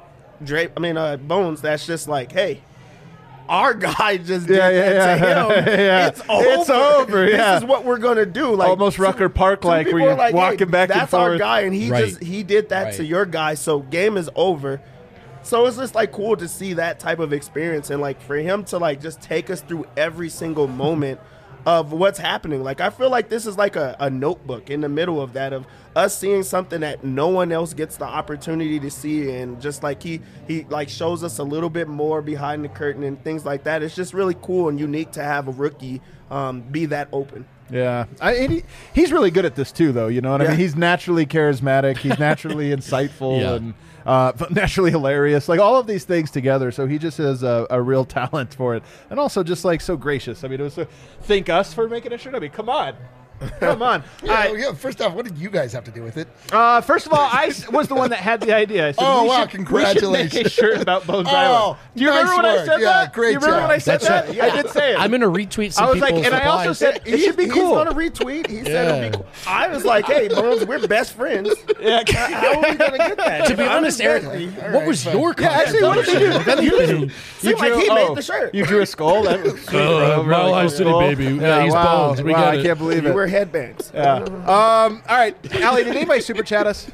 Bones. That's just like, hey. Our guy just did that to him. Yeah. It's over. It's over, yeah. This is what we're gonna do. Like Almost Rucker Park some like, people where are you're walking back and that's forth. our guy, and he Right. he did that to Right. your guy. So game is over. So it's just like cool to see that type of experience and like for him to like just take us through every single moment of what's happening. Like I feel like this is like a notebook in the middle of that of us seeing something that no one else gets the opportunity to see, and just like he like shows us a little bit more behind the curtain and things like that. It's just really cool and unique to have a rookie be that open. Yeah, he's really good at this too, though. You know what I Yeah. mean? He's naturally charismatic. He's naturally insightful Yeah. and naturally hilarious. Like all of these things together. So he just has a real talent for it, and also just like so gracious. I mean, it was thank us for making a shirt. I mean, come on. Come on. First off, what did you guys have to do with it? First of all, I was the one that had the idea. I said, Oh, we wow, should congratulations. make a shirt about Bones Oh, Island. Do you remember nice when I work. said Yeah, that? great Do you remember job. when I said That's that? right. I did say it. I'm going to retweet some I was like, people's and I also replies. said it should be He's cool. gonna retweet. He said it'll Yeah. be cool. I was like, hey, Bones, we're best friends. Yeah. How are we gonna get that? To be I'm honest, his Eric, bestie. what was your Yeah, actually, what did you do? Seemed like he made the shirt. You drew a skull? That was sweet, bro. Really Mile High cool City, skull. baby. Yeah, he's wow. Bones. We wow, got I it. can't believe You it. wear headbands. Yeah. All right, Allie, did anybody super chat us?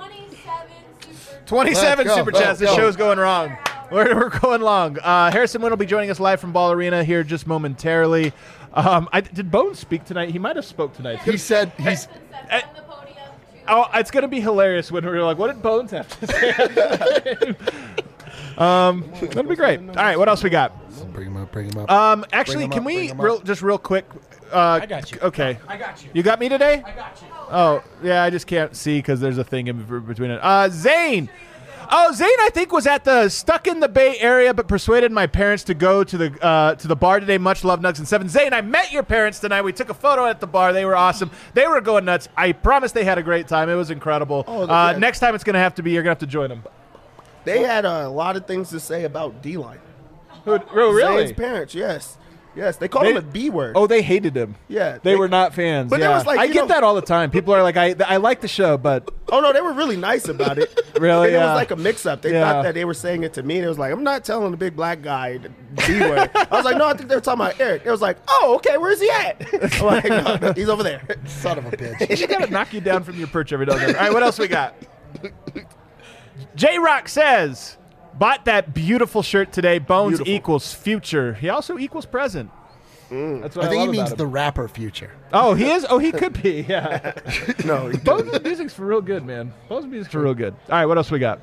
27 Let's go. super chats. The Go. show's going wrong. We're going long. Harrison Wynn will be joining us live from Ball Arena here just momentarily. Did Bones speak tonight? He might have spoke tonight. He said he's. Oh, it's going to be hilarious when we're like, what did Bones have to say? That'll be great. All right, what else we got? Bring him up. Bring him up. Actually, Bring 'em can up, we bring 'em up. just real quick? I got you. Okay. I got you. You got me today? I got you. Oh, yeah, I just can't see because there's a thing in between it. Zane. Oh, Zane, I think, was at the stuck in the Bay Area, but persuaded my parents to go to the bar today. Much love, Nugs and Seven. Zane, I met your parents tonight. We took a photo at the bar. They were awesome. They were going nuts. I promise they had a great time. It was incredible. Oh, yeah. Next time it's going to have to be, you're going to have to join them. They had a lot of things to say about D-line. Oh, really? Zane's parents, yes. Yes, they called him a B word. Oh, they hated him. Yeah, They were not fans. But it yeah. was like, I you get know- that all the time. People are like, I like the show, but Oh, no, they were really nice about it. Really? And it Yeah. was like a mix-up. They Yeah. thought that they were saying it to me. And it was like, I'm not telling the big black guy the B word. I was like, no, I think they were talking about Eric. It was like, oh, okay, where's he at? I'm like, no, he's over there. Son of a bitch. you got to knock you down from your perch every now and then. All right, what else we got? J-Rock says, bought that beautiful shirt today. Bones Beautiful. equals future. He also equals present. That's what I think he love means about the him. rapper Future. Oh, he is? Oh, he could be, yeah. No, he Bones' music's for real good, man. Bones' music's for real good. All right, what else we got?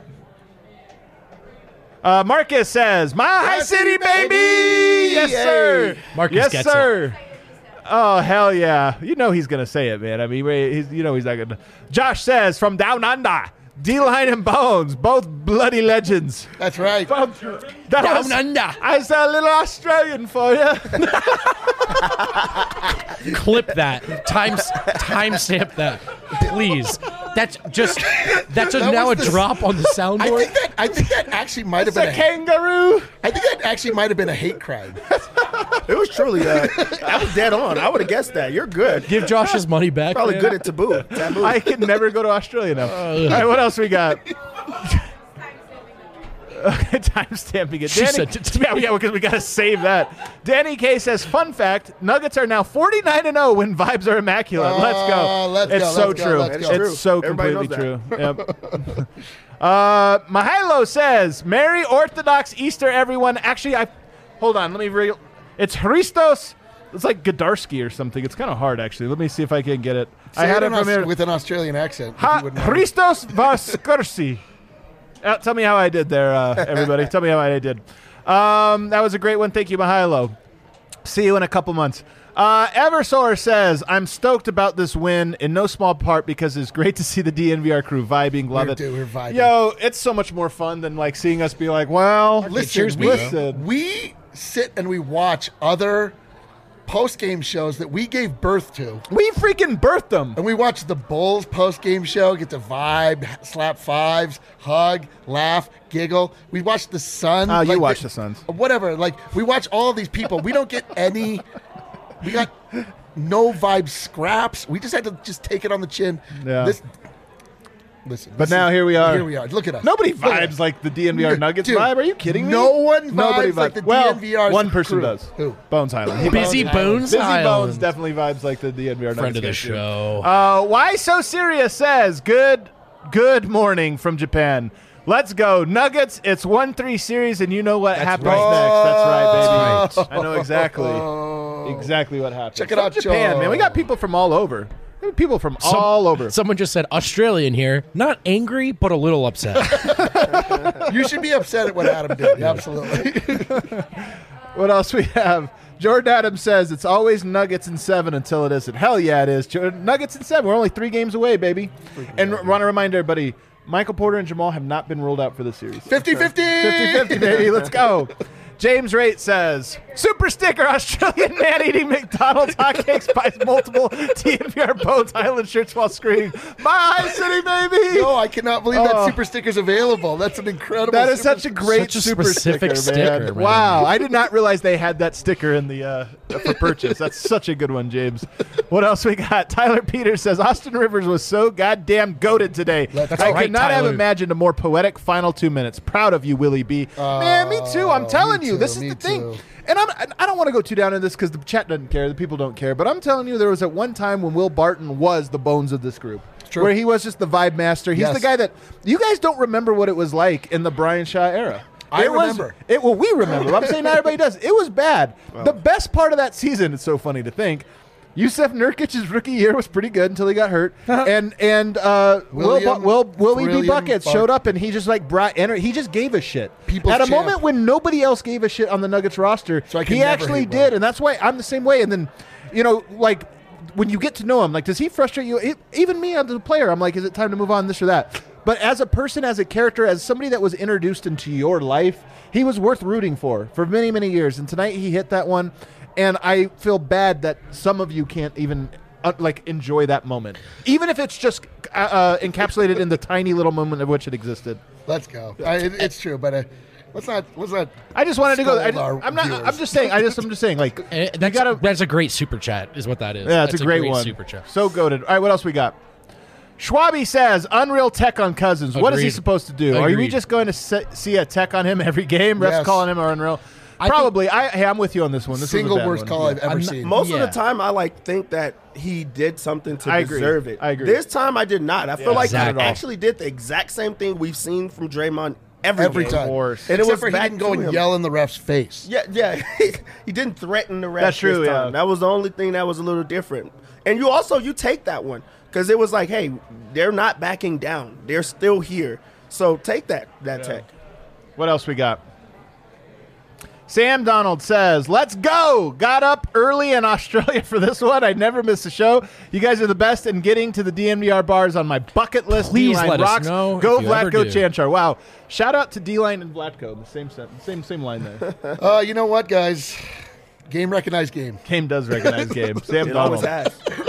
Marcus says, "My High City, baby!" Yes, sir. Marcus yes, gets sir. Oh, hell yeah. You know he's going to say it, man. I mean, he's not going to. Josh says, "From down under, D-Line and Bones, both bloody legends." That's right. That Down was- under. I said a little Australian for you. Clip that. Timestamp that, please. That's That now a was the- drop on the soundboard. I think that actually might have It's been a kangaroo. I think that actually might have been a hate crime. It was truly. I was dead on. I would have guessed that. You're good. Give Josh his money back. Probably man. good at taboo. I can never go to Australia now. All right, what else we got? Time stamping it. She sent it to me. Yeah, because we got to save that. Danny K says, fun fact, Nuggets are now 49-0 when vibes are immaculate. Let's go. It's so true. It's so completely true. Yep. Mahalo says, Merry Orthodox Easter, everyone. Actually, hold on. Let me it's Christos. It's like Gdarsky or something. It's kind of hard, actually. Let me see if I can get it. I had it from here with an Australian accent. Christos Vaskursi. Tell me how I did there, everybody. Tell me how I did. That was a great one. Thank you, Mahalo. See you in a couple months. Eversoar says, I'm stoked about this win in no small part because it's great to see the DNVR crew vibing. Love it. We're vibing. Yo, it's so much more fun than like seeing us be like, well, listen. We sit and we watch other post-game shows that we gave birth to. We freaking birthed them. And we watch the Bulls post-game show, get to vibe, slap fives, hug, laugh, giggle. We watch the Sun. Oh, you watch the Suns. Whatever. Like, we watch all of these people. We don't get any... We got no vibe scraps. We just had to just take it on the chin. Yeah. Listen. But now here we are. Here we are. Look at us. Nobody vibes like the DNVR Nuggets vibe. Are you kidding me? No one Nobody vibes like the well, DNVR. one person crew. does. Who? Bones Highland. Busy Bones Bones definitely vibes like the DNVR Nuggets. Friend of the show. Why So Serious says, good morning from Japan. Let's go. Nuggets, it's 1-3 series, and you know what happens next. That's right, baby. I know exactly what happens. Check it out, Japan, Joe. man. We got people from all over. People from all over. Someone just said Australian here. Not angry, but a little upset. You should be upset at what Adam did. Absolutely. What else we have? Jordan Adams says it's always Nuggets in 7 until it isn't. Hell yeah, it is. Nuggets in 7. We're only 3 games away, baby. And want to remind everybody, Michael Porter and Jamal have not been ruled out for the series. 50-50. 50-50, baby. Let's go. James Rate says, super sticker, Australian man eating McDonald's hotcakes buys multiple DNVR Bones Island shirts while screaming, my city, baby. No, I cannot believe that super sticker's available. That's an incredible That is such a great super specific sticker, man. man. Wow. I did not realize they had that sticker in the for purchase. That's such a good one, James. What else we got? Tyler Peters says, Austin Rivers was so goddamn goated today. That's I right, could not have Tyler. imagined a more poetic final 2 minutes. Proud of you, Willie B. Man, me too. I'm telling you. This is the thing. And I don't want to go too down in this because the chat doesn't care. The people don't care. But I'm telling you, there was at one time when Will Barton was the bones of this group. True. Where he was just the vibe master. He's the guy that you guys don't remember what it was like in the Brian Shaw era. I remember. Well, we remember. I'm saying not everybody does. It was bad. The best part of that season, it's so funny to think, Yusef Nurkic's rookie year was pretty good until he got hurt, and Willie B. Buckets showed up and he just like brought energy. He just gave a shit at a moment when nobody else gave a shit on the Nuggets roster. So he actually did, and that's why I'm the same way. And then, like when you get to know him, like does he frustrate you? Even me as a player, I'm like, is it time to move on, this or that? But as a person, as a character, as somebody that was introduced into your life, he was worth rooting for many, many years. And tonight he hit that one. And I feel bad that some of you can't even enjoy that moment, even if it's just encapsulated in the tiny little moment of which it existed. Let's go. It's true, but let's not. I just wanted to go. I'm just saying. I'm just saying. Like that's a great super chat, is what that is. Yeah, that's a great one. Super chat. So goated. All right, what else we got? Schwabi says, Unreal Tech on Cousins. What is he supposed to do? Are we just going to see a tech on him every game? Refs calling him Unreal. Probably. I'm with you on this one. This single is a bad worst one. call I've ever seen. Most of the time, I think that he did something to deserve it. I agree. This time, I did not. I feel like he Exactly. actually did the exact same thing we've seen from Draymond every time. And Except it was for he back didn't go to and him. yell in the ref's face. Yeah. He didn't threaten the ref. That's true, this time. yeah. That was the only thing that was a little different. And you take that one because it was like, hey, they're not backing down. They're still here. So take that tech. What else we got? Sam Donald says, let's go. Got up early in Australia for this one. I never miss a show. You guys are the best in getting to the DNVR bars on my bucket list. Please D-line let us rocks. know Go if you ever Vlatko do. Chanchar. Wow. Shout out to D-line and Vlatko. The same line there. You know what, guys? Game recognized game. Game does recognize game. Sam It always Donald. has.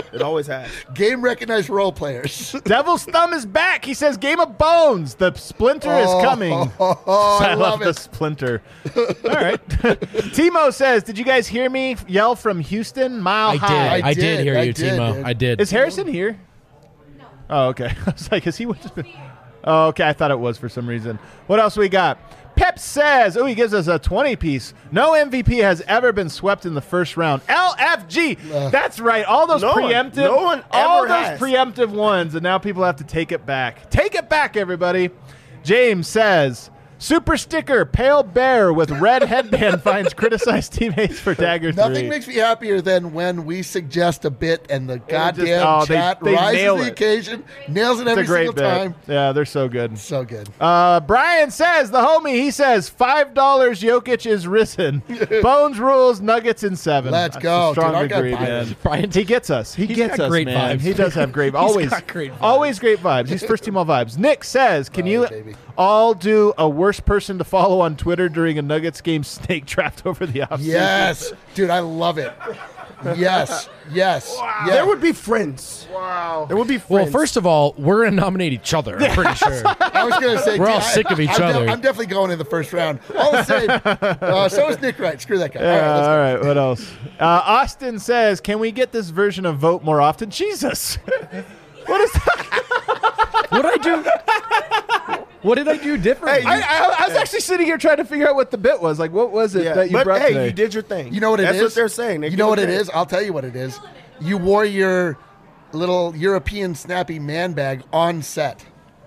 It always has. Game recognized role players. Devil's Thumb is back. He says, Game of Bones. The Splinter is coming. I love the it. Splinter. All right. Timo says, did you guys hear me yell from Houston? Mile high. I did hear I you, did, Timo. dude. I did. Is Harrison here? No. Oh, okay. I was like, is he? Oh, okay. I thought it was for some reason. What else we got? Pep says, he gives us a 20-piece. No MVP has ever been swept in the first round. LFG. That's right. All those No one. preemptive. No one all ever those has. preemptive ones, and now people have to take it back. Take it back, everybody. James says, super sticker, pale bear with red headband finds criticized teammates for Dagger 3. Nothing makes me happier than when we suggest a bit and the goddamn they chat nail rises to the it. occasion, nails it It's every a great single bit. time. Yeah, they're so good. So good. Brian says, the homie, he says, $5 Jokic is risen. Bones rules, Nuggets in 7. Let's That's go, a strong dude. I got agree, vibes. man. Brian, He gets us. He He's gets got us, great man. vibes. He does have great vibes. He's Always, got great vibes. always great vibes. He's first team all vibes. Nick says, can you baby. all do a worst person to follow on Twitter during a Nuggets game snake draft over the offseason? Yes. Dude, I love it. Yes. Yes. Yeah. There would be friends. Wow. There would be well, friends. first of all, we're going to nominate each other, I'm pretty sure. I was going to say, We're all dude, sick of each I'm other. I'm definitely going in the first round. All the same. So is Nick Wright. Screw that guy. Yeah, let's go. all right, what else? Austin says, can we get this version of Vote more often? Jesus. What is that? What did I do? What did I do different? Hey, I was actually sitting here trying to figure out what the bit was. Like, what was it Yeah, that you but brought hey, today? you did your thing. You know what it is? That's what they're saying. They You give know what it it credit. is? I'll tell you what it is. You wore your little European snappy man bag on set.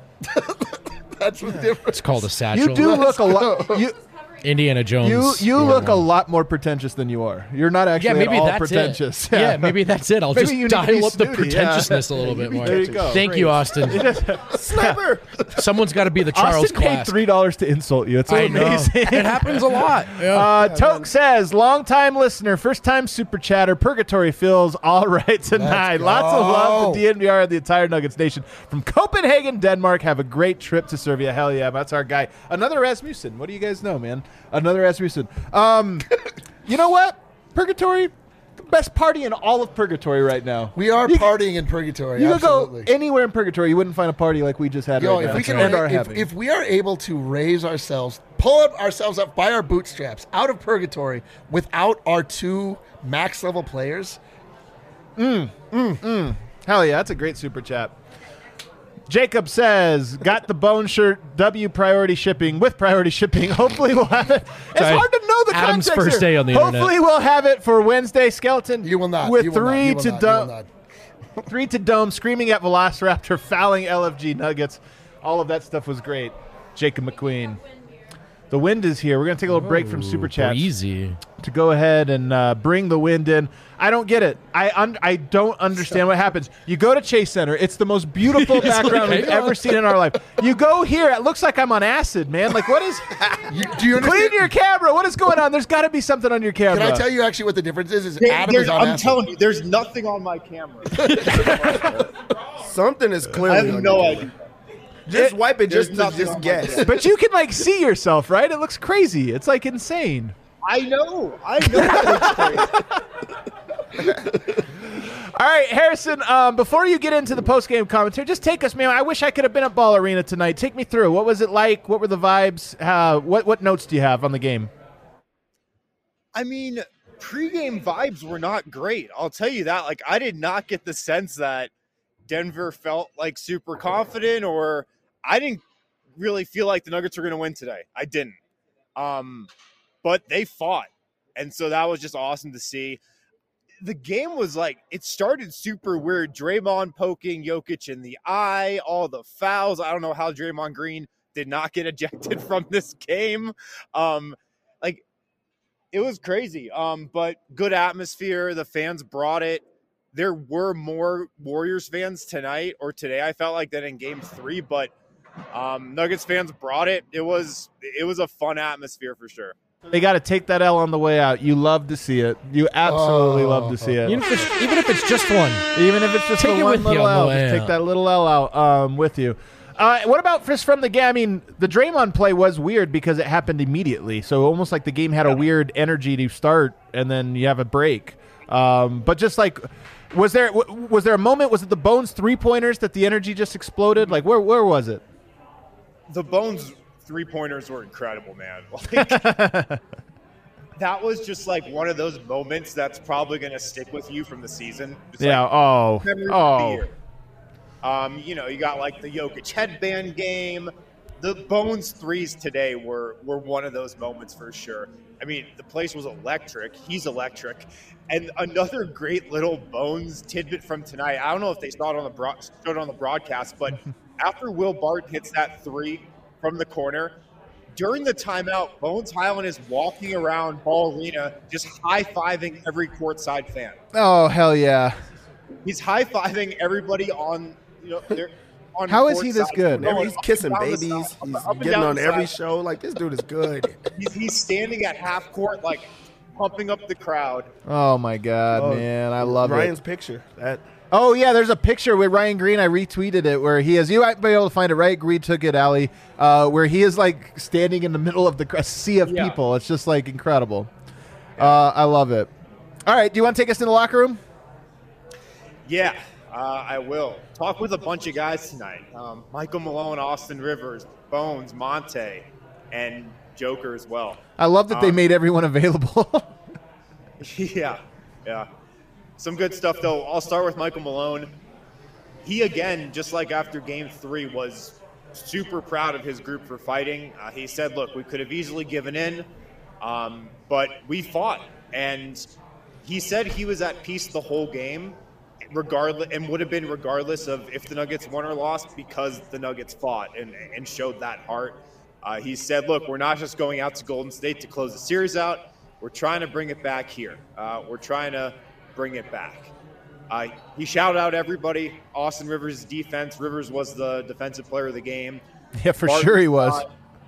That's the difference. It's called a satchel. You do look a lot. Indiana Jones. You look a lot more pretentious than you are. You're not actually Yeah, maybe at all that's pretentious. it. Yeah, maybe that's it. I'll Maybe just you need to be dial up the snooty, pretentiousness a little bit more. There you go. Thank you, Austin. Sniper. Someone's got to be the Charles Austin paid Class. $3 to insult you. It's so I know. amazing. It happens a lot. Yeah. Toke says, long-time listener, first-time super chatter, Purgatory feels all right tonight. go. Lots of love to DNVR and the entire Nuggets Nation. From Copenhagen, Denmark, have a great trip to Serbia. Hell yeah, that's our guy. Another Rasmussen. What do you guys know, man? Another Rasmussen. You know what? Purgatory, the best party in all of Purgatory right now. We are partying in Purgatory. You could absolutely. go anywhere in Purgatory, you wouldn't find a party like we just had Yo, right if now. we can, and are having. if we are able to raise ourselves, pull ourselves up by our bootstraps out of Purgatory without our 2 max level players, Hell yeah, that's a great super chat. Jacob says, got the bone shirt, W priority shipping, with priority shipping. Hopefully we'll have it. It's Sorry, hard to know the Adam's context first here. day on the Hopefully internet. we'll have it for Wednesday, Skeleton. you will not. With you will not, 3 you will to not, you will Dome. not. 3 to Dome, screaming at Velociraptor, fouling LFG Nuggets. All of that stuff was great. Jacob McQueen. The wind is here. We're going to take a little break from Super Chats Easy. to go ahead and bring the wind in. I don't get it. I don't understand what happens. You go to Chase Center. It's the most beautiful background we've ever seen in our life. You go here. It looks like I'm on acid, man. Like, what is... Do you understand? Clean your camera. What is going on? There's got to be something on your camera. Can I tell you actually what the difference is? Adam is on I'm acid. telling you, there's nothing on my camera. Something is I clearly have on no your idea. camera. Just wipe it There's just to nothing just on my guess. camera. But you can, like, see yourself, right? It looks crazy. It's, like, insane. I know. That looks crazy. All right, Harrison, before you get into the post-game commentary, just take us, man. I wish I could have been at Ball Arena tonight. Take me through. What was it like? What were the vibes? What notes do you have on the game? I mean, pregame vibes were not great. I'll tell you that. Like, I did not get the sense that Denver felt like super confident, or I didn't really feel like the Nuggets were going to win today. I didn't. But they fought. And so that was just awesome to see. The game was like, it started super weird. Draymond poking Jokic in the eye, all the fouls. I don't know how Draymond Green did not get ejected from this game. Like, it was crazy. But good atmosphere. The fans brought it. There were more Warriors fans tonight or today, I felt like, than in game 3, but Nuggets fans brought it. It was a fun atmosphere for sure. They got to take that L on the way out. You love to see it. You absolutely love to see it. Even if it's just one. Even if it's just Take the it one with you little on the L, way just take out. that little L out with you. What about just from the game? I mean, the Draymond play was weird because it happened immediately. So almost like the game had a weird energy to start, and then you have a break. But just like, was there a moment? Was it the Bones 3-pointers that the energy just exploded? Like, where was it? The Bones 3-pointers were incredible, man. Like, that was just like one of those moments that's probably going to stick with you from the season. Just yeah. Like, memory of the year. You know, you got like the Jokic headband game. The Bones threes today were one of those moments for sure. I mean, the place was electric. He's electric. And another great little Bones tidbit from tonight. I don't know if they saw it on the broadcast, but after Will Barton hits that three from the corner, during the timeout, Bones Highland is walking around Ball Arena just high-fiving every courtside fan. Oh, hell yeah. He's high-fiving everybody on, you know, their on How is he this good? Remember, he's kissing babies. He's getting on every show. Like, this dude is good. He's standing at half court, like, pumping up the crowd. Oh, my God, man. I love Ryan's it. picture. Oh, yeah, there's a picture with Ryan Green. I retweeted it where he is. You might be able to find it, right? Green took it, Allie. Where he is, like, standing in the middle of a sea of people. It's just, like, incredible. I love it. All right, do you want to take us in the locker room? Yeah, I will. Talk with a bunch of guys tonight. Michael Malone, Austin Rivers, Bones, Monte, and Joker as well. I love that they made everyone available. Yeah. Some good stuff, though. I'll start with Michael Malone. He, again, just like after Game 3, was super proud of his group for fighting. He said, look, we could have easily given in, but we fought. And he said he was at peace the whole game, regardless, and would have been regardless of if the Nuggets won or lost, because the Nuggets fought and showed that heart. He said, look, we're not just going out to Golden State to close the series out. We're trying to bring it back here. We're trying to bring it back. He shouted out everybody. Austin Rivers' defense. Rivers was the defensive player of the game. Yeah, for sure he was.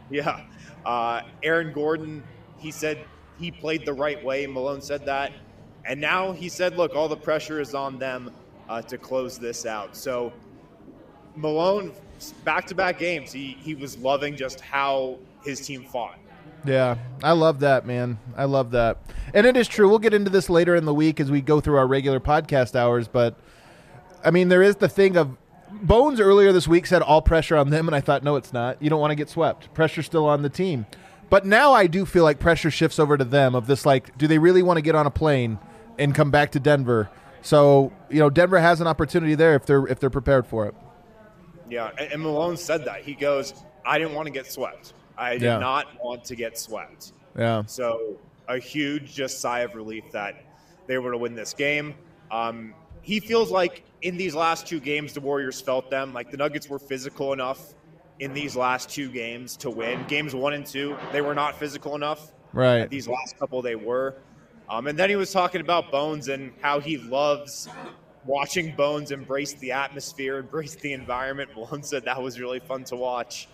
Aaron Gordon, he said he played the right way. Malone said that. And now he said, look, all the pressure is on them to close this out. So Malone, back-to-back games, he was loving just how his team fought. Yeah, I love that, man. I love that. And it is true. We'll get into this later in the week as we go through our regular podcast hours. But, I mean, there is the thing of Bones earlier this week said all pressure on them, and I thought, no, it's not. You don't want to get swept. Pressure's still on the team. But now I do feel like pressure shifts over to them of this, like, do they really want to get on a plane and come back to Denver? So, you know, Denver has an opportunity there if they're prepared for it. Yeah, and Malone said that. He goes, I didn't want to get swept. I did not want to get swept. Yeah. So a huge just sigh of relief that they were to win this game. He feels like in these last two games, the Warriors felt them. Like the Nuggets were physical enough in these last two games to win. Games 1 and 2, they were not physical enough. Right. These last couple, they were. And then he was talking about Bones and how he loves watching Bones embrace the atmosphere, embrace the environment. Malone said that was really fun to watch.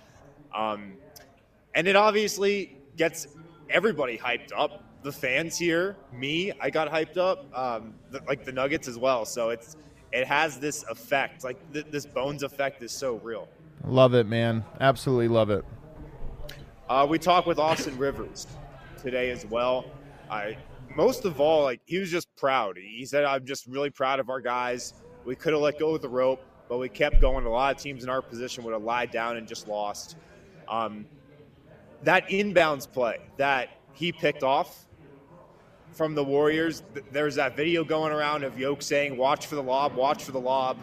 And it obviously gets everybody hyped up. The fans here, me, I got hyped up, like the Nuggets as well. So it has this effect. Like this Bones effect is so real. Love it, man. Absolutely love it. We talked with Austin Rivers today as well. Most of all, like he was just proud. He said, I'm just really proud of our guys. We could have let go of the rope, but we kept going. A lot of teams in our position would have lied down and just lost. That inbounds play that he picked off from the Warriors, there's that video going around of Yoke saying, watch for the lob, watch for the lob.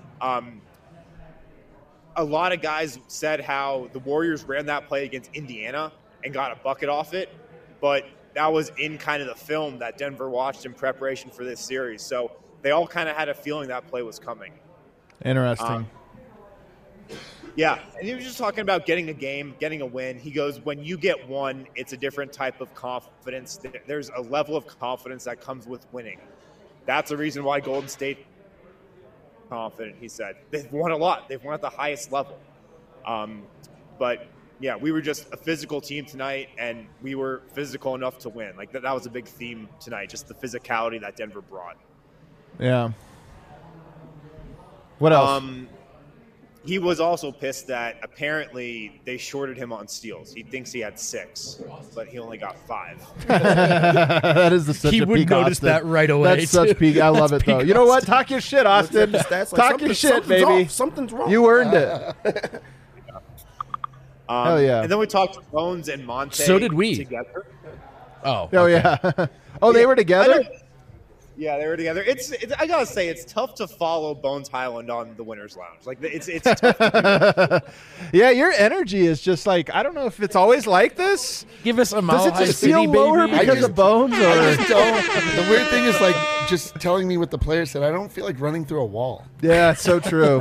A lot of guys said how the Warriors ran that play against Indiana and got a bucket off it, but that was in kind of the film that Denver watched in preparation for this series. So they all kind of had a feeling that play was coming. Interesting. Yeah, and he was just talking about getting a game, getting a win. He goes, when you get one, it's a different type of confidence. There's a level of confidence that comes with winning. That's the reason why Golden State confident, he said. They've won a lot. They've won at the highest level. But, yeah, we were just a physical team tonight, and we were physical enough to win. Like, that was a big theme tonight, just the physicality that Denver brought. Yeah. What else? he was also pissed that apparently they shorted him on steals. He thinks he had 6, but he only got 5. That is such He a would peak, notice Austin. that right away. That's such peak. I love it though. You know what? Talk your shit, Austin. Looked at the stats like, Talk your shit, something's baby. off, something's wrong. You earned it. Hell yeah. And then we talked to Bones and Monte. So did we. Together. Oh, Oh yeah. Oh, they were together. Yeah, they were together. It's I gotta say, it's tough to follow Bones Highland on the Winners Lounge. Like it's tough. To do. Yeah, your energy is just like, I don't know if it's always like this. Give us a Mile Does it High just City, feel lower baby. because of Bones? I Or just don't. The weird thing is like just telling me what the player said. I don't feel like running through a wall. yeah, it's so true.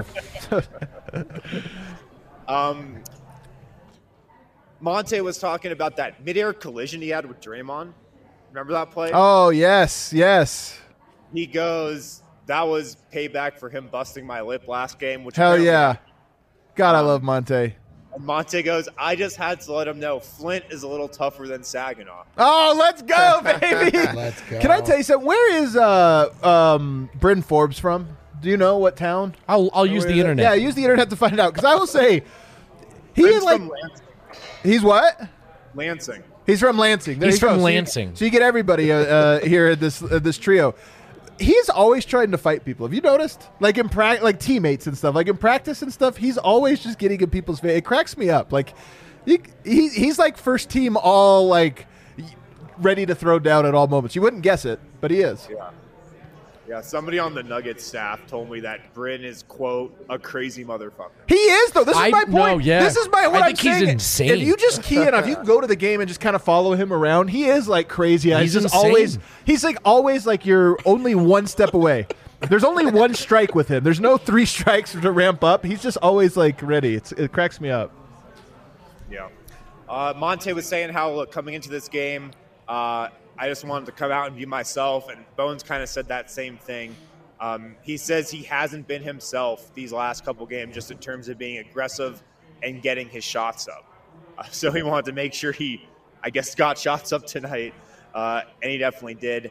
Monte was talking about that midair collision he had with Draymond. Remember that play? Oh yes, yes. He goes, that was payback for him busting my lip last game. Which Hell apparently- yeah. God, I love Monte. And Monte goes, I just had to let him know Flint is a little tougher than Saginaw. Oh, let's go, baby. Let's go. Can I tell you something? Where is Bryn Forbes from? Do you know what town? I'll use the internet. Yeah, use the internet to find out. Because I will say, he Flint's is like, from Lansing. he's what? Lansing. He's from Lansing. There He's you go. from So you- Lansing. So you get everybody here at this trio. He's always trying to fight people. Have you noticed? Like in like teammates and stuff. Like in practice and stuff, he's always just getting in people's face. It cracks me up. Like he's like first team, all like ready to throw down at all moments. You wouldn't guess it, but he is. Yeah, somebody on the Nuggets staff told me that Bryn is, quote, a crazy motherfucker. He is though. This is my point. no, yeah. This is my what I I'm think he's saying. insane. If you just key in, if you go to the game and just kind of follow him around, he is like crazy. He's just insane. always. He's like always like you're only one step away. There's only one strike with him. There's no 3 strikes to ramp up. He's just always like ready. It cracks me up. Yeah. Monte was saying how, look, coming into this game, I just wanted to come out and be myself, and Bones kind of said that same thing. He says he hasn't been himself these last couple games just in terms of being aggressive and getting his shots up. So he wanted to make sure he, I guess, got shots up tonight, and he definitely did.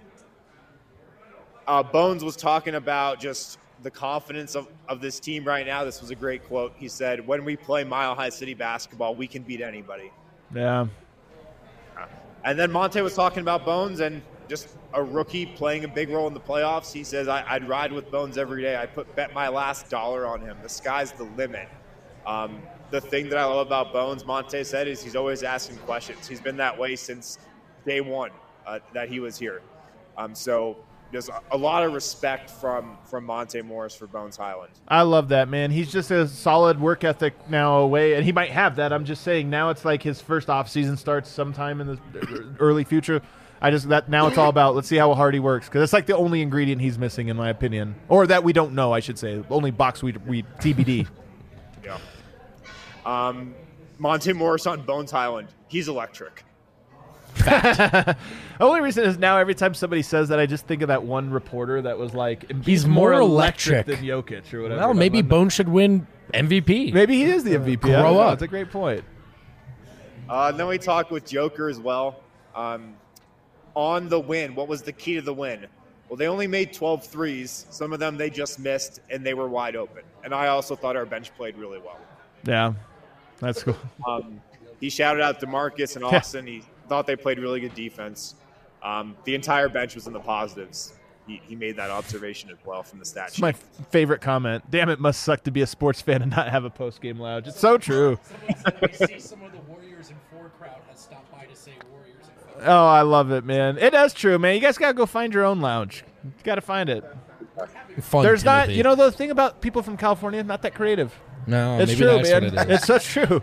Bones was talking about just the confidence of this team right now. This was a great quote. He said, when we play Mile High City basketball, we can beat anybody. Yeah. And then Monte was talking about Bones and just a rookie playing a big role in the playoffs. He says, I'd ride with Bones every day. I bet my last dollar on him. The sky's the limit. The thing that I love about Bones, Monte said, is he's always asking questions. He's been that way since day one that he was here. So there's a lot of respect from Monte Morris for Bones Highland. I love that, man. He's just a solid work ethic now away, and he might have that. I'm just saying now it's like his first off season starts sometime in the early future. Now it's all about let's see how hard he works, because it's like the only ingredient he's missing, in my opinion, or that we don't know. I should say only box we TBD. Yeah. Monte Morris on Bones Highland. He's electric. The only reason is now every time somebody says that, I just think of that one reporter that was like, He's more electric than Jokic or whatever. Well, maybe Bones should win MVP. Maybe he is the MVP. I don't Grow know. up. That's a great point. Then we talked with Joker as well. On the win, what was the key to the win? Well, they only made 12 threes. Some of them they just missed, and they were wide open. And I also thought our bench played really well. Yeah, that's cool. He shouted out DeMarcus and Austin. He thought they played really good defense. The entire bench was in the positives. He made that observation as well from the stat It's sheet. my favorite comment. Damn, it must suck to be a sports fan and not have a post-game lounge. It's so true. We see some of the Warriors in 4 crowd has stopped by to say Warriors in 4. Oh, I love it, man. It is true, man. You guys got to go find your own lounge. You got to find it. Fun, There's not, Timothy. you know, the thing about people from California, not that creative. No, It's maybe true, that's man. what it is. It's so true.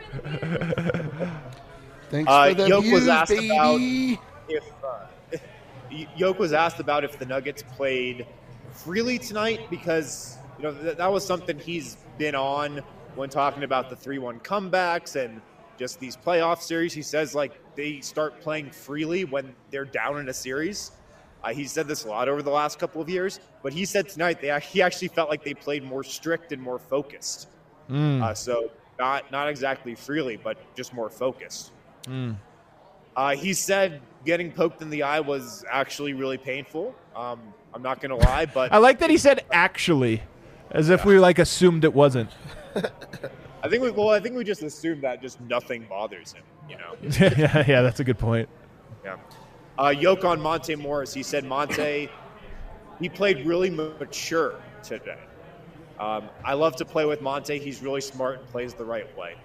Thanks for the Yoke was views, asked baby. if Yoke was asked about if the Nuggets played freely tonight, because that was something he's been on when talking about the 3-1 comebacks and just these playoff series. He says like they start playing freely when they're down in a series. He said this a lot over the last couple of years, but he said tonight he actually felt like they played more strict and more focused. So not exactly freely, but just more focused. He said getting poked in the eye was actually really painful. I'm not going to lie, but I like that he said actually, as if we like assumed it wasn't. I think we just assume that just nothing bothers him, you know. yeah, that's a good point. Yeah. Yoke on Monte Morris. He said Monte, he played really mature today. I love to play with Monte. He's really smart and plays the right way.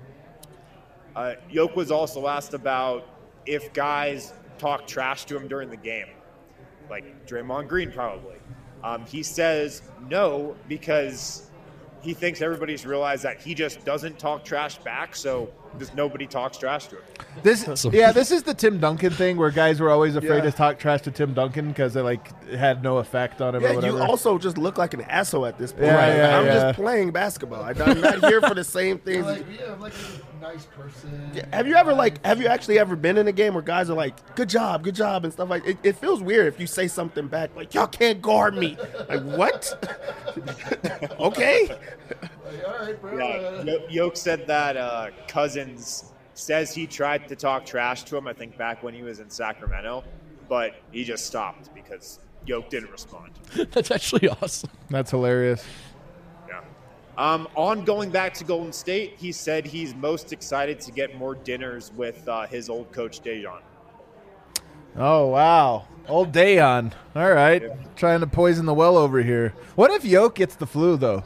Yoke was also asked about if guys talk trash to him during the game, like Draymond Green probably. He says no, because he thinks everybody's realized that he just doesn't talk trash back, so just nobody talks trash to him. This is the Tim Duncan thing where guys were always afraid to talk trash to Tim Duncan because it had no effect on him or whatever. You also just look like an asshole at this point. Yeah, I'm just playing basketball. I'm not here for the same things. Like a nice person. Yeah, have you actually ever been in a game where guys are like, good job, and stuff like it feels weird if you say something back like, y'all can't guard me. Like, what? Okay. All right, bro. Yeah, Yoke said that Cousins says he tried to talk trash to him, I think, back when he was in Sacramento, but he just stopped because Yoke didn't respond. That's actually awesome. That's hilarious. Yeah. On going back to Golden State, he said he's most excited to get more dinners with his old coach, Dejan. Oh, wow. Old Dayon. All right. Yeah. Trying to poison the well over here. What if Yoke gets the flu, though?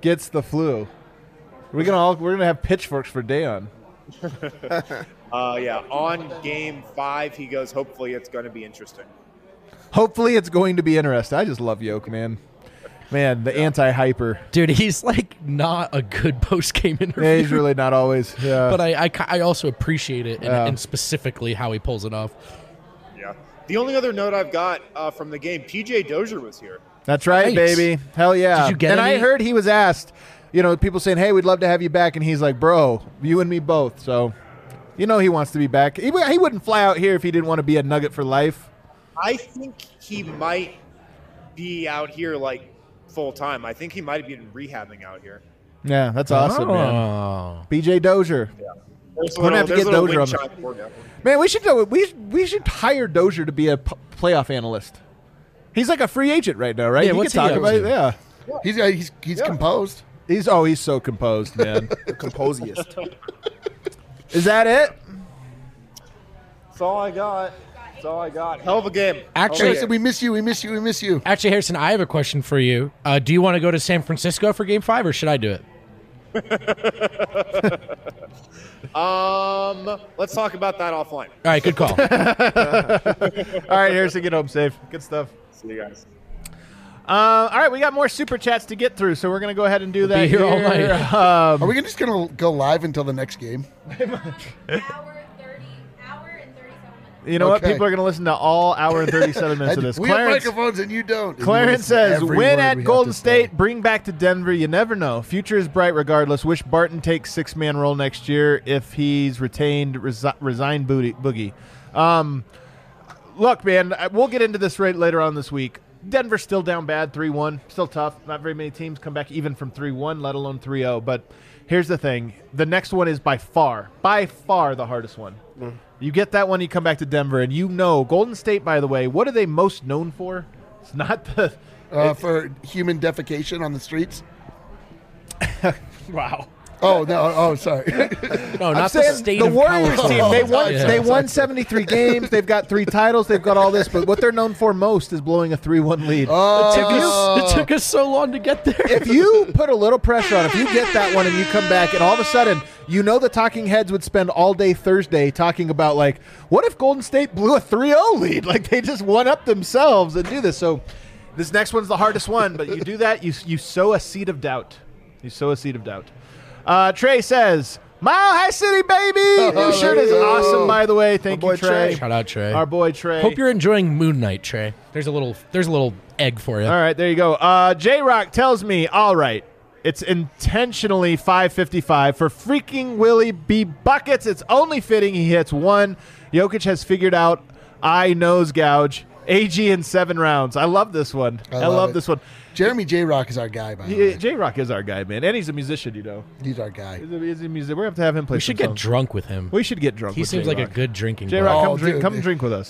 We're gonna have pitchforks for Dayon. On game 5, he goes, hopefully it's going to be interesting. Hopefully it's going to be interesting. I just love Yoke, man. Man, the anti-hyper. Dude, he's like not a good post-game interview. Yeah, he's really not always. Yeah. But I also appreciate it and specifically how he pulls it off. Yeah. The only other note I've got from the game, PJ Dozier was here. That's right, Nice. baby. Hell yeah. Did you get and any? I heard he was asked, people saying, hey, we'd love to have you back. And he's like, bro, you and me both. So, he wants to be back. He wouldn't fly out here if he didn't want to be a Nugget for life. I think he might be out here like full time. I think he might be rehabbing out here. Yeah, that's awesome, man. BJ Dozier. We're gonna have to get Dozier on the. Man, we should hire Dozier to be a playoff analyst. He's like a free agent right now, right? Yeah, he what's can he talk up about to? it. Yeah, He's composed. he's so composed, man. The composiest. Is that it? That's all I got. Hell of a game. Actually, Harrison, we miss you. Actually, Harrison, I have a question for you. Do you want to go to San Francisco for Game 5, or should I do it? Let's talk about that offline. All right, good call. All right, Harrison, get home safe. Good stuff. See you guys. All right, we got more super chats to get through, so we're gonna go ahead and do that be here all night. Are we just gonna go live until the next game? Hour and 37 minutes. You know what? Okay. People are going to listen to all hour and 37 minutes of this. We have microphones and you don't. And Clarence you listen to says, every win word at we have Golden to say. State, bring back to Denver. You never know. Future is bright regardless. Wish Barton takes six-man role next year. If he's retained, resign Boogie. Look, man, we'll get into this right later on this week. Denver's still down bad, 3-1. Still tough. Not very many teams come back even from 3-1, let alone 3-0. But here's the thing. The next one is by far the hardest one. You get that one, you come back to Denver, and Golden State, by the way, what are they most known for? It's not the... for human defecation on the streets. Wow. Oh, no. Oh, sorry. No, not the state the of Warriors California. team. They won 73 games. They've got 3 titles. They've got all this. But what they're known for most is blowing a 3-1 lead. It took us so long to get there. If you put a little pressure on, if you get that one and you come back, and all of a sudden, the talking heads would spend all day Thursday talking about, like, what if Golden State blew a 3-0 lead? Like, they just one up themselves and do this. So this next one's the hardest one. But you do that, you sow a seed of doubt. Trey says, Mile High City, baby! New shirt is awesome, by the way. Thank you, Trey. Shout out, Trey. Our boy, Trey. Hope you're enjoying Moon Knight, Trey. There's a little egg for you. All right, there you go. J-Rock tells me, all right, it's intentionally 555 for freaking Willie B. Buckets. It's only fitting he hits one. Jokic has figured out I nose gouge. AG in 7 rounds. I love this one. I love this one. Jeremy J-Rock is our guy, by the way. J-Rock is our guy, man. And he's a musician, He's our guy. He's a musician. We're going to have to have him play We should some get songs. drunk with him. We should get drunk He with seems J-Rock. like a good drinking J-Rock, buddy. come drink with us.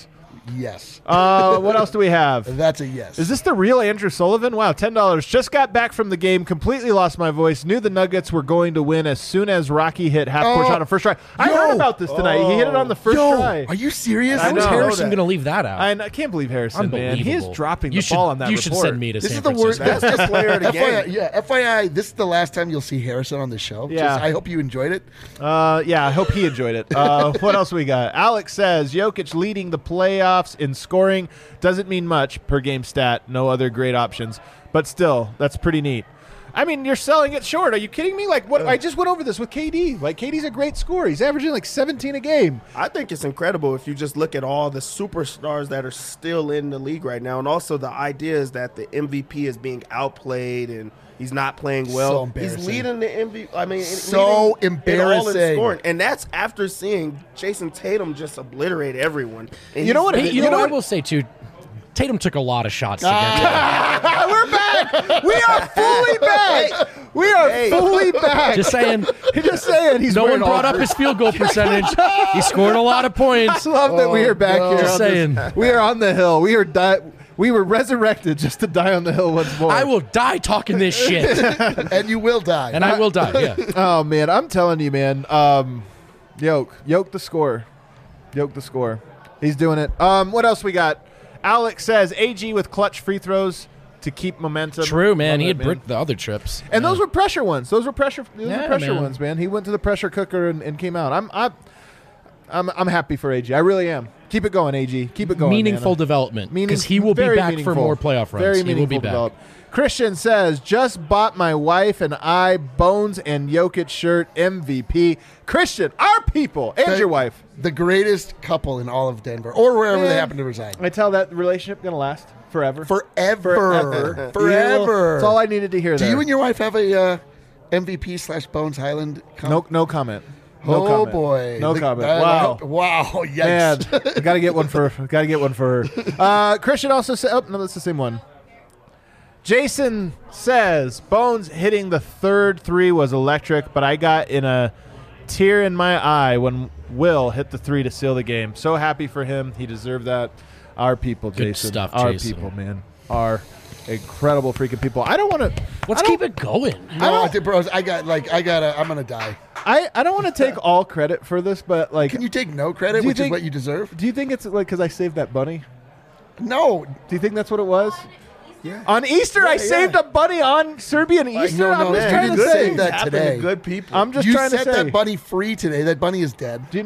Yes. What else do we have? That's a yes. Is this the real Andrew Sullivan? Wow, $10. Just got back from the game, completely lost my voice. Knew the Nuggets were going to win as soon as Rocky hit half-court shot on first try. I heard about this tonight. He hit it on the first try. Are you serious? I How is know. Harrison going to leave that out? I can't believe Harrison, man. He is Unbelievable. dropping You the ball on that You report. should send me to This San is the worst. Francisco. That's the player of the game. FYI, FYI, this is the last time you'll see Harrison on the show. Yeah. I hope you enjoyed it. Yeah, I hope he enjoyed it. What else we got? Alex says Jokic leading the playoffs in scoring doesn't mean much per game stat. No other great options, but still, that's pretty neat. I mean, you're selling it short. Are you kidding me? Like, what? I just went over this with KD. Like, KD's a great scorer. He's averaging like 17 a game. I think it's incredible if you just look at all the superstars that are still in the league right now, and also the idea is that the MVP is being outplayed and he's not playing So well. embarrassing. He's leading the MVP. I mean, So leading in all in embarrassing. scoring, and that's after seeing Jason Tatum just obliterate everyone. And You know what? Hey, you know what I will say, too? Tatum took a lot of shots to get there. We're back. We are fully back. We are fully back. Just saying. Just saying. He's No one wearing all brought up his field goal percentage. He scored a lot of points. Love that we are back no. here. Just on saying. this. We are on the hill. We were resurrected just to die on the hill once more. I will die talking this shit. And you will die. And I will die, yeah. Oh man, I'm telling you, man. Yoke the score. Yoke the score. He's doing it. What else we got? Alex says AG with clutch free throws to keep momentum. True, man. Love He it, had man. bricked the other trips. And Yeah. those were pressure ones. Those were pressure Yeah, man. ones, man. He went to the pressure cooker and came out. I'm happy for AG. I really am. Keep it going, AG. Keep it going. Meaningful man. development. Because he will be very back for meaningful. more playoff runs. Very He will meaningful be back. development. Christian says, just bought my wife and I Bones and Jokic shirt MVP. Christian, our people, and your wife. The greatest couple in all of Denver, or wherever they Man. happen to reside. I tell that relationship going to last forever. Forever. That's all I needed to hear Do there. you and your wife have a MVP/Bones Highland? No comment. No Oh comment. boy! No comment. I Wow. hope- wow! Yikes! Man, I gotta get one for her. Christian also said, "Oh no, that's the same one." Jason says Bones hitting the third three was electric, but I got in a tear in my eye when Will hit the three to seal the game. So happy for him. He deserved that. Our people, Good Jason. stuff, Our Jason. people, man. Our incredible freaking people. I don't want to. Let's keep it going. No, bros, I'm gonna die. I don't want to take all credit for this, but like, Can you take no credit, Do you which is think- what you deserve? do you think it's like because I saved that bunny? No, Do you think that's what it was? Yeah. On Easter, I saved a bunny on Serbian Easter. no, I'm just you trying to didn't say. save that Happen today. to good people. I'm just you trying to set say. that bunny free today. That bunny is dead Do you-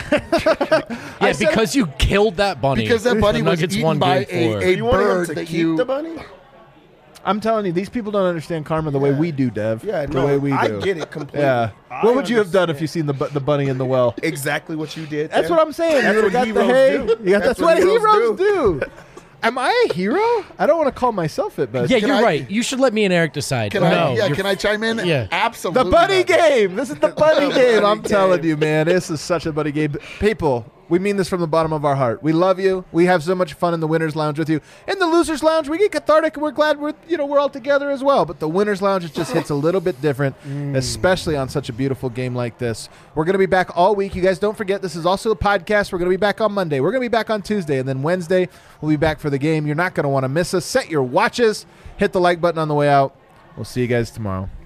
Yeah, said- because you killed that bunny. because that bunny The was Nuggets eaten won by game 4. a you want him bird to that keep you. the bunny? I'm telling you, these people don't understand karma the way we do, Dev. Yeah, the no, way we do. I get it completely. Yeah. I What would you have done if understand. you seen the bunny in the well? Exactly what you did. That's Tim. what I'm saying. That's You what got the heroes hay. do. You got, that's what heroes do. Am I a hero? I don't want to call myself it, but Yeah, Can you're I- right. You should let me and Eric decide. Can no, I? Yeah, you're- can I chime in? Yeah. Absolutely. the bunny not. game. This is the bunny game. I'm bunny telling game. you, man. This is such a bunny game. People, we mean this from the bottom of our heart. We love you. We have so much fun in the Winners Lounge with you. In the Losers Lounge, we get cathartic and we're glad we're all together as well. But the Winners Lounge, it just hits a little bit different, especially on such a beautiful game like this. We're going to be back all week. You guys don't forget, this is also a podcast. We're going to be back on Monday. We're going to be back on Tuesday. And then Wednesday, we'll be back for the game. You're not going to want to miss us. Set your watches. Hit the like button on the way out. We'll see you guys tomorrow.